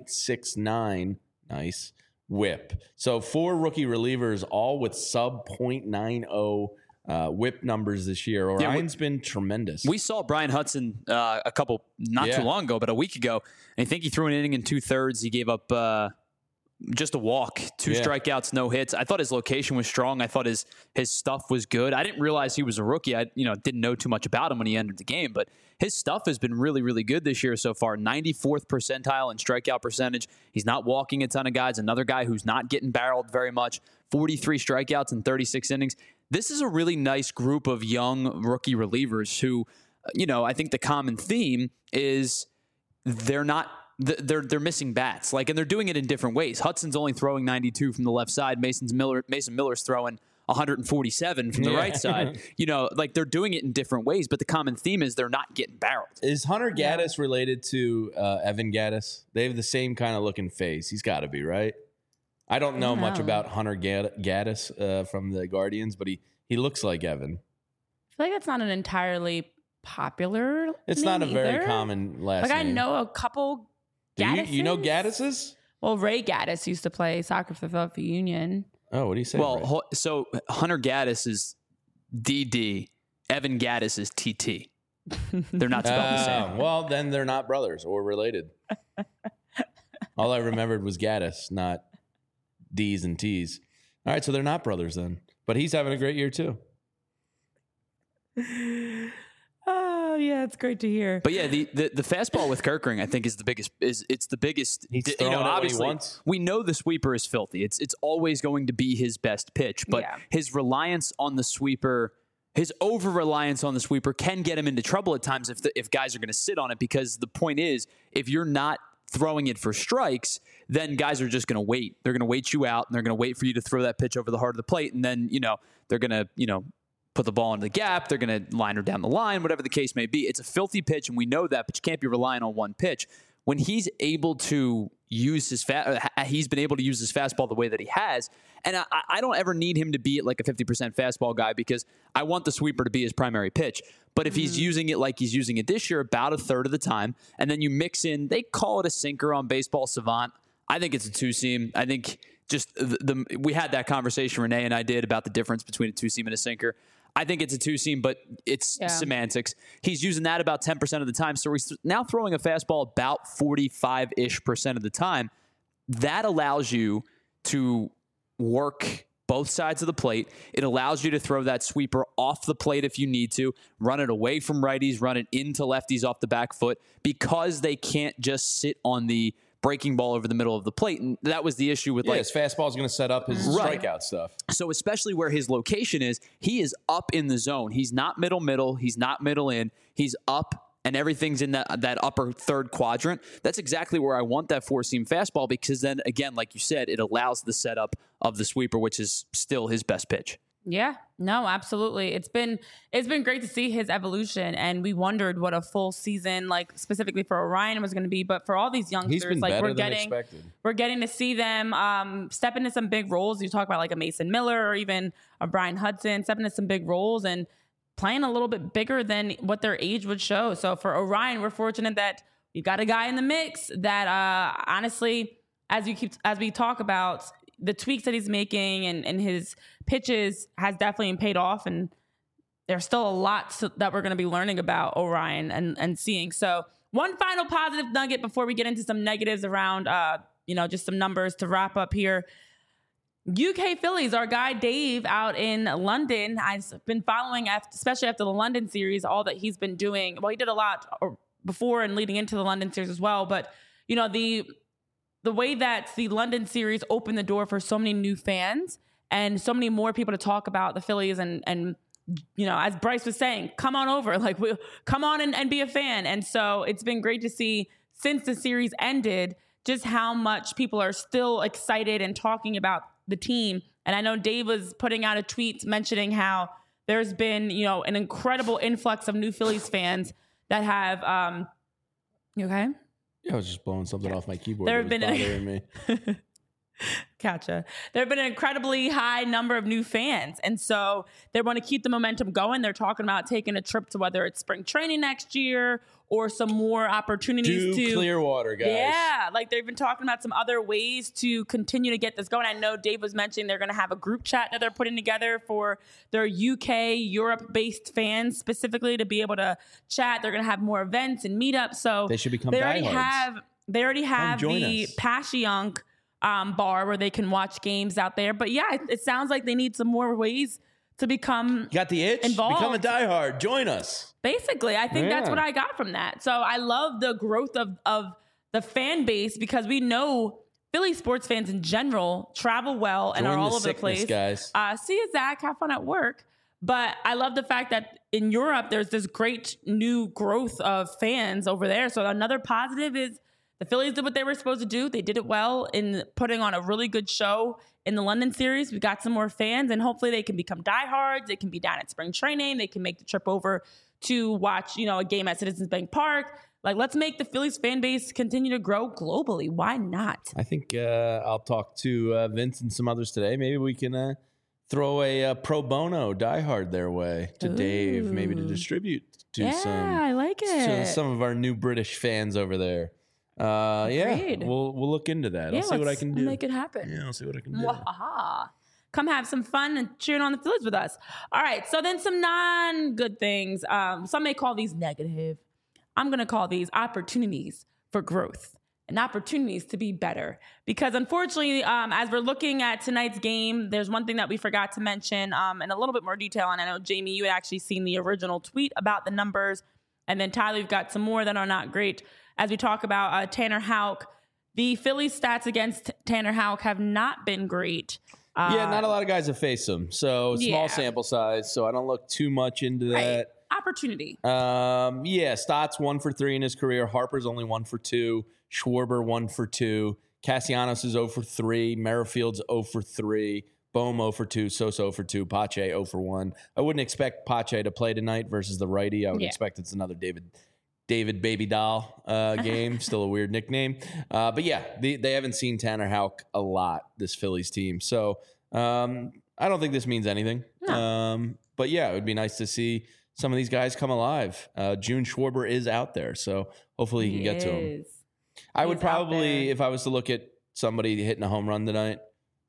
.69. Nice. Whip. So 4 rookie relievers, all with sub .90 whip numbers this year. Orion's been tremendous.
We saw Brian Hudson a couple, not too long ago, but a week ago. And I think he threw an inning in 2/3. He gave up just a walk, 2 strikeouts, no hits. I thought his location was strong. I thought his stuff was good. I didn't realize he was a rookie. I didn't know too much about him when he entered the game, but his stuff has been really, really good this year so far. 94th percentile in strikeout percentage. He's not walking a ton of guys. Another guy who's not getting barreled very much. 43 strikeouts in 36 innings. This is a really nice group of young rookie relievers who, I think the common theme is they're missing bats. And they're doing it in different ways. Hudson's only throwing 92 from the left side. Mason Miller's throwing 147 from the right side. They're doing it in different ways, but the common theme is they're not getting barreled.
Is Hunter Gaddis related to Evan Gaddis? They have the same kind of looking face. He's got to be, right? I don't know much about Hunter Gaddis from the Guardians, but he looks like Evan.
I feel like that's not an entirely popular
It's
name
not a very
either.
common last name.
I know a couple Gaddises.
You know Gaddis's?
Well, Ray Gaddis used to play soccer for the Philadelphia Union.
Oh, what do you say?
Well, so Hunter Gaddis is DD. Evan Gaddis is TT. They're not spelled the same.
Well, then they're not brothers or related. All I remembered was Gaddis, not D's and T's. All right, so they're not brothers then. But he's having a great year too.
Oh yeah, it's great to hear.
But yeah, the fastball with Kerkering, I think, is the biggest. It's the biggest.
He's throwing it
obviously,
when he wants.
we know the sweeper is filthy. It's always going to be his best pitch. But his reliance on the sweeper, his over reliance on the sweeper, can get him into trouble at times if guys are going to sit on it. Because the point is, if you're not throwing it for strikes, then guys are just going to wait. They're going to wait you out, and they're going to wait for you to throw that pitch over the heart of the plate, and then they're going to put the ball into the gap. They're going to line her down the line, whatever the case may be. It's a filthy pitch, and we know that, but you can't be relying on one pitch. When he's able to use he's been able to use his fastball the way that he has, and I don't ever need him to be at like a 50% fastball guy because I want the sweeper to be his primary pitch. But if he's using it like he's using it this year, about a third of the time, and then you mix in, they call it a sinker on Baseball Savant. I think it's a two-seam. I think just we had that conversation, Renee and I did, about the difference between a two-seam and a sinker. I think it's a two-seam, but it's semantics. He's using that about 10% of the time. So he's now throwing a fastball about 45-ish% of the time. That allows you to work both sides of the plate. It allows you to throw that sweeper off the plate if you need to, run it away from righties, run it into lefties off the back foot, because they can't just sit on the breaking ball over the middle of the plate. And that was the issue with
his fastball is going to set up his strikeout stuff.
So especially where his location is, he is up in the zone. He's not middle. He's not middle in. He's up, and everything's in that upper third quadrant. That's exactly where I want that four-seam fastball, because then, again, like you said, it allows the setup of the sweeper, which is still his best pitch.
Yeah, no, absolutely. It's been great to see his evolution, and we wondered what a full season, like specifically for Orion, was going to be. But for all these youngsters,
he's been
like
better than expected.
We're getting to see them step into some big roles. You talk about like a Mason Miller or even a Brian Hudson step into some big roles and playing a little bit bigger than what their age would show. So for Orion, we're fortunate that we got a guy in the mix that honestly, as we talk about, the tweaks that he's making and his pitches has definitely paid off. And there's still a lot that we're going to be learning about Orion and seeing. So one final positive nugget before we get into some negatives around, just some numbers to wrap up here. UK Phillies, our guy Dave out in London, I've been following, especially after the London series, all that he's been doing. Well, he did a lot before and leading into the London series as well. But, the way that the London series opened the door for so many new fans and so many more people to talk about the Phillies and as Bryce was saying, come on over, come on and be a fan. And so it's been great to see since the series ended, just how much people are still excited and talking about the team. And I know Dave was putting out a tweet mentioning how there's been, an incredible influx of new Phillies fans that have, you okay?
Yeah, I was just blowing something off my keyboard. There have been bothering me.
Gotcha. There have been an incredibly high number of new fans. And so they want to keep the momentum going. They're talking about taking a trip to whether it's spring training next year or some more opportunities to
Clearwater, guys.
Yeah, they've been talking about some other ways to continue to get this going. I know Dave was mentioning they're going to have a group chat that they're putting together for their UK, Europe-based fans specifically to be able to chat. They're going to have more events and meetups. So
they should become
diehards. They already have the Passyunk bar where they can watch games out there. But yeah, it sounds like they need some more ways to become
You got the itch?
Involved.
Become a diehard. Join us.
Basically, I think that's what I got from that. So I love the growth of the fan base because we know Philly sports fans in general travel well and are all over the place.
Guys.
See you, Zach. Have fun at work. But I love the fact that in Europe, there's this great new growth of fans over there. So another positive is the Phillies did what they were supposed to do. They did it well in putting on a really good show in the London series. We got some more fans, and hopefully they can become diehards. They can be down at spring training. They can make the trip over to watch, a game at Citizens Bank Park. Let's make the Phillies fan base continue to grow globally. Why not?
I think I'll talk to Vince and some others today. Maybe we can throw a pro bono diehard their way to Dave, maybe to distribute to
I like it.
some of our new British fans over there. We'll look into that. I'll see what I can do.
Make it happen.
Yeah, I'll see what I can do.
Wahaha. Come have some fun and cheering on the Phillies with us. All right, so then some non-good things. Some may call these negative. I'm going to call these opportunities for growth and opportunities to be better. Because unfortunately, as we're looking at tonight's game, there's one thing that we forgot to mention in a little bit more detail. And I know, Jamie, you had actually seen the original tweet about the numbers. And then, Tyler, you've got some more that are not great. As we talk about Tanner Houck, the Phillies stats against Tanner Houck have not been great.
Not a lot of guys have faced him. So small sample size. So I don't look too much into that.
Opportunity.
Stott's 1 for 3 in his career. Harper's only 1 for 2. Schwarber 1 for 2. Castellanos is 0 for 3. Merrifield's 0 for 3. Bohm 0 for 2. Sosa 0 for 2. Pache 0 for 1. I wouldn't expect Pache to play tonight versus the righty. I would expect it's another David Baby Doll game. Still a weird nickname. But yeah, they haven't seen Tanner Houck a lot, this Phillies team. So I don't think this means anything. No. But yeah, it would be nice to see some of these guys come alive. June Schwarber is out there, so hopefully you can get to him. I would probably, if I was to look at somebody hitting a home run tonight,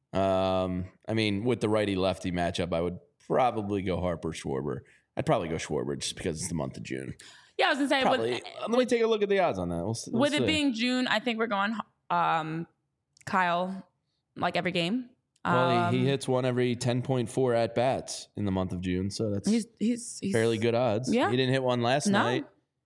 with the righty-lefty matchup, I would probably go Harper, Schwarber. I'd probably go Schwarber just because it's the month of June.
Yeah, I was going to say.
Let me take a look at the odds on that. We'll
with it being June, I think we're going Kyle, every game.
Well, he hits one every 10.4 at bats in the month of June, so that's
he's
fairly good odds.
Yeah.
He didn't hit one last night.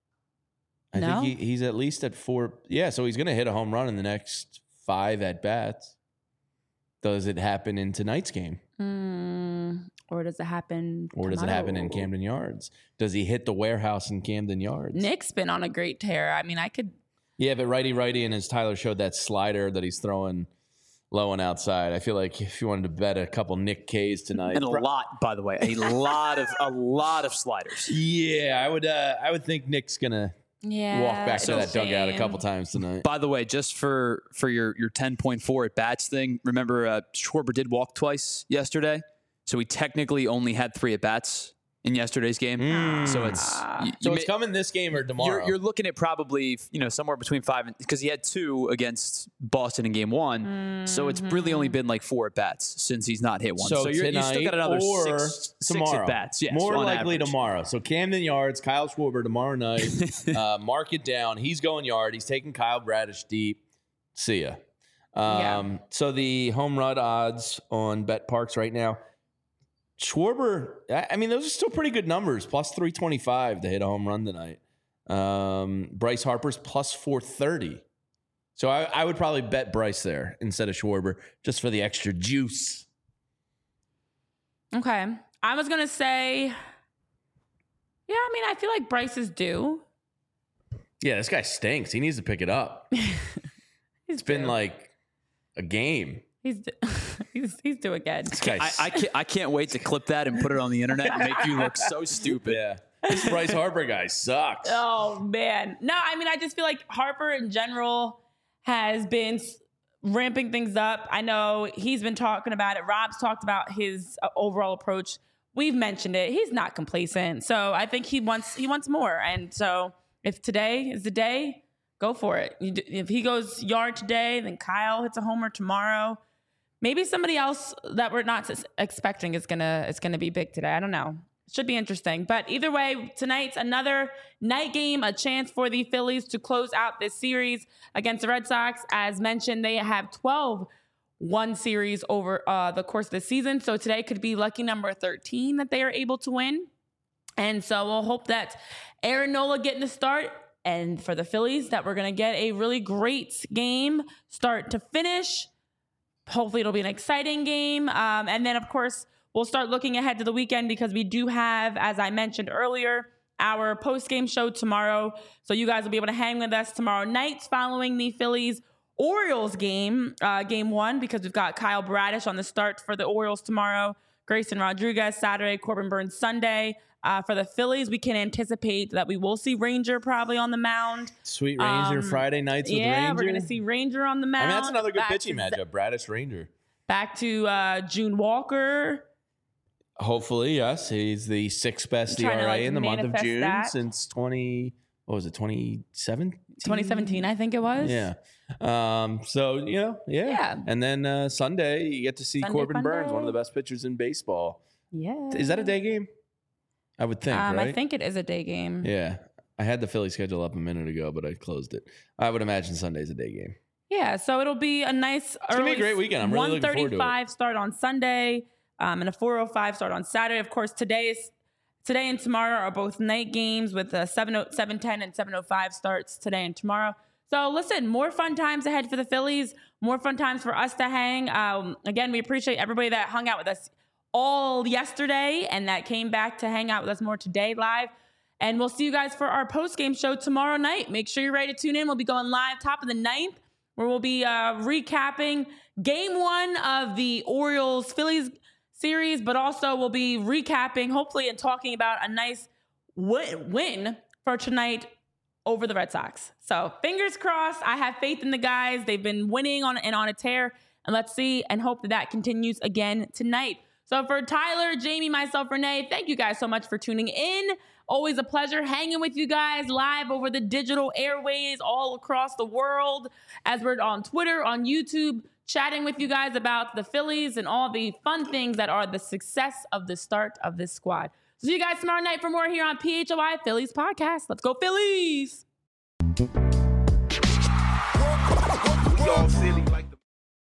I think he's at least at 4. Yeah, so he's going to hit a home run in the next 5 at bats. Does it happen in tonight's game?
Or does it happen
Or does it happen in Camden Yards? Does he hit the warehouse in Camden Yards?
Nick's been on a great tear. I mean, I could.
Yeah, but righty, and as Tyler showed that slider that he's throwing low and outside, I feel like if you wanted to bet a couple Nick K's tonight,
and a lot, by the way, a lot of sliders.
Yeah, I would think Nick's gonna walk back to that dugout a couple times tonight.
By the way, just for your 10.4 at bats thing, remember Schwarber did walk twice yesterday, so he technically only had 3 at bats in yesterday's game. So it's
it's coming this game or tomorrow.
You're looking at probably somewhere between 5 and, because he had 2 against Boston in game 1. So it's really only been like 4 at bats since he's not hit one. So you still got another 6 at bats. Yes,
more likely
average.
Tomorrow. So Camden Yards, Kyle Schwarber tomorrow night. Mark it down. He's going yard. He's taking Kyle Bradish deep. See ya. So the home run odds on BetParx right now. Schwarber, I mean, those are still pretty good numbers. Plus 325 to hit a home run tonight. Bryce Harper's plus 430. So I would probably bet Bryce there instead of Schwarber just for the extra juice.
Okay. I was going to say, I mean, I feel like Bryce is due.
Yeah, this guy stinks. He needs to pick it up. It's been like a game.
He's due again.
I can't wait to clip that and put it on the internet and make you look so stupid.
Yeah. This Bryce Harper guy sucks.
Oh, man. No, I mean, I just feel like Harper in general has been ramping things up. I know he's been talking about it. Rob's talked about his overall approach. We've mentioned it. He's not complacent. So I think he wants more. And so if today is the day, go for it. If he goes yard today, then Kyle hits a homer tomorrow. Maybe somebody else that we're not expecting is gonna be big today. I don't know. It should be interesting. But either way, tonight's another night game, a chance for the Phillies to close out this series against the Red Sox. As mentioned, they have 12-1 series over the course of the season. So today could be lucky number 13 that they are able to win. And so we'll hope that Aaron Nola getting the start. And for the Phillies, that we're going to get a really great game start to finish. Hopefully it'll be an exciting game. And then, of course, we'll start looking ahead to the weekend because we do have, as I mentioned earlier, our post-game show tomorrow. So you guys will be able to hang with us tomorrow night following the Phillies-Orioles game, game 1, because we've got Kyle Bradish on the start for the Orioles tomorrow, Grayson Rodriguez Saturday, Corbin Burns Sunday. For the Phillies, we can anticipate that we will see Ranger probably on the mound.
Sweet Ranger Friday nights with Ranger.
Yeah, we're going to see Ranger on the mound.
I mean, that's another good pitching matchup, Bradish Ranger.
Back to June Walker.
Hopefully, yes. He's the 6th best ERA in the month of June since 2017?
2017, I think it was.
Yeah. So, yeah. And then Sunday, you get to see Corbin Burns, one of the best pitchers in baseball.
Yeah.
Is that a day game? I would think, right?
I think it is a day game.
Yeah. I had the Philly schedule up a minute ago, but I closed it. I would imagine Sunday's a day game.
Yeah, so it'll be a nice
early. It's going to be a great weekend. I'm really looking forward to it.
1:35 start on Sunday and a 4:05 start on Saturday. Of course, today and tomorrow are both night games with 7:10 and 7:05 starts today and tomorrow. So listen, more fun times ahead for the Phillies, more fun times for us to hang. Again, we appreciate everybody that hung out with us all yesterday and that came back to hang out with us more today live. And we'll see you guys for our post-game show tomorrow night. Make sure you're ready to tune in. We'll be going live top of the 9th, where we'll be recapping game 1 of the Orioles-Phillies series, but also we'll be recapping, hopefully, and talking about a nice win for tonight over the Red Sox. So fingers crossed. I have faith in the guys. They've been winning on a tear, and let's see and hope that continues again tonight. So for Tyler, Jamie, myself, Renee, thank you guys so much for tuning in. Always a pleasure hanging with you guys live over the digital airways all across the world as we're on Twitter, on YouTube, chatting with you guys about the Phillies and all the fun things that are the success of the start of this squad. So see you guys tomorrow night for more here on PHOI Phillies Podcast. Let's go Phillies!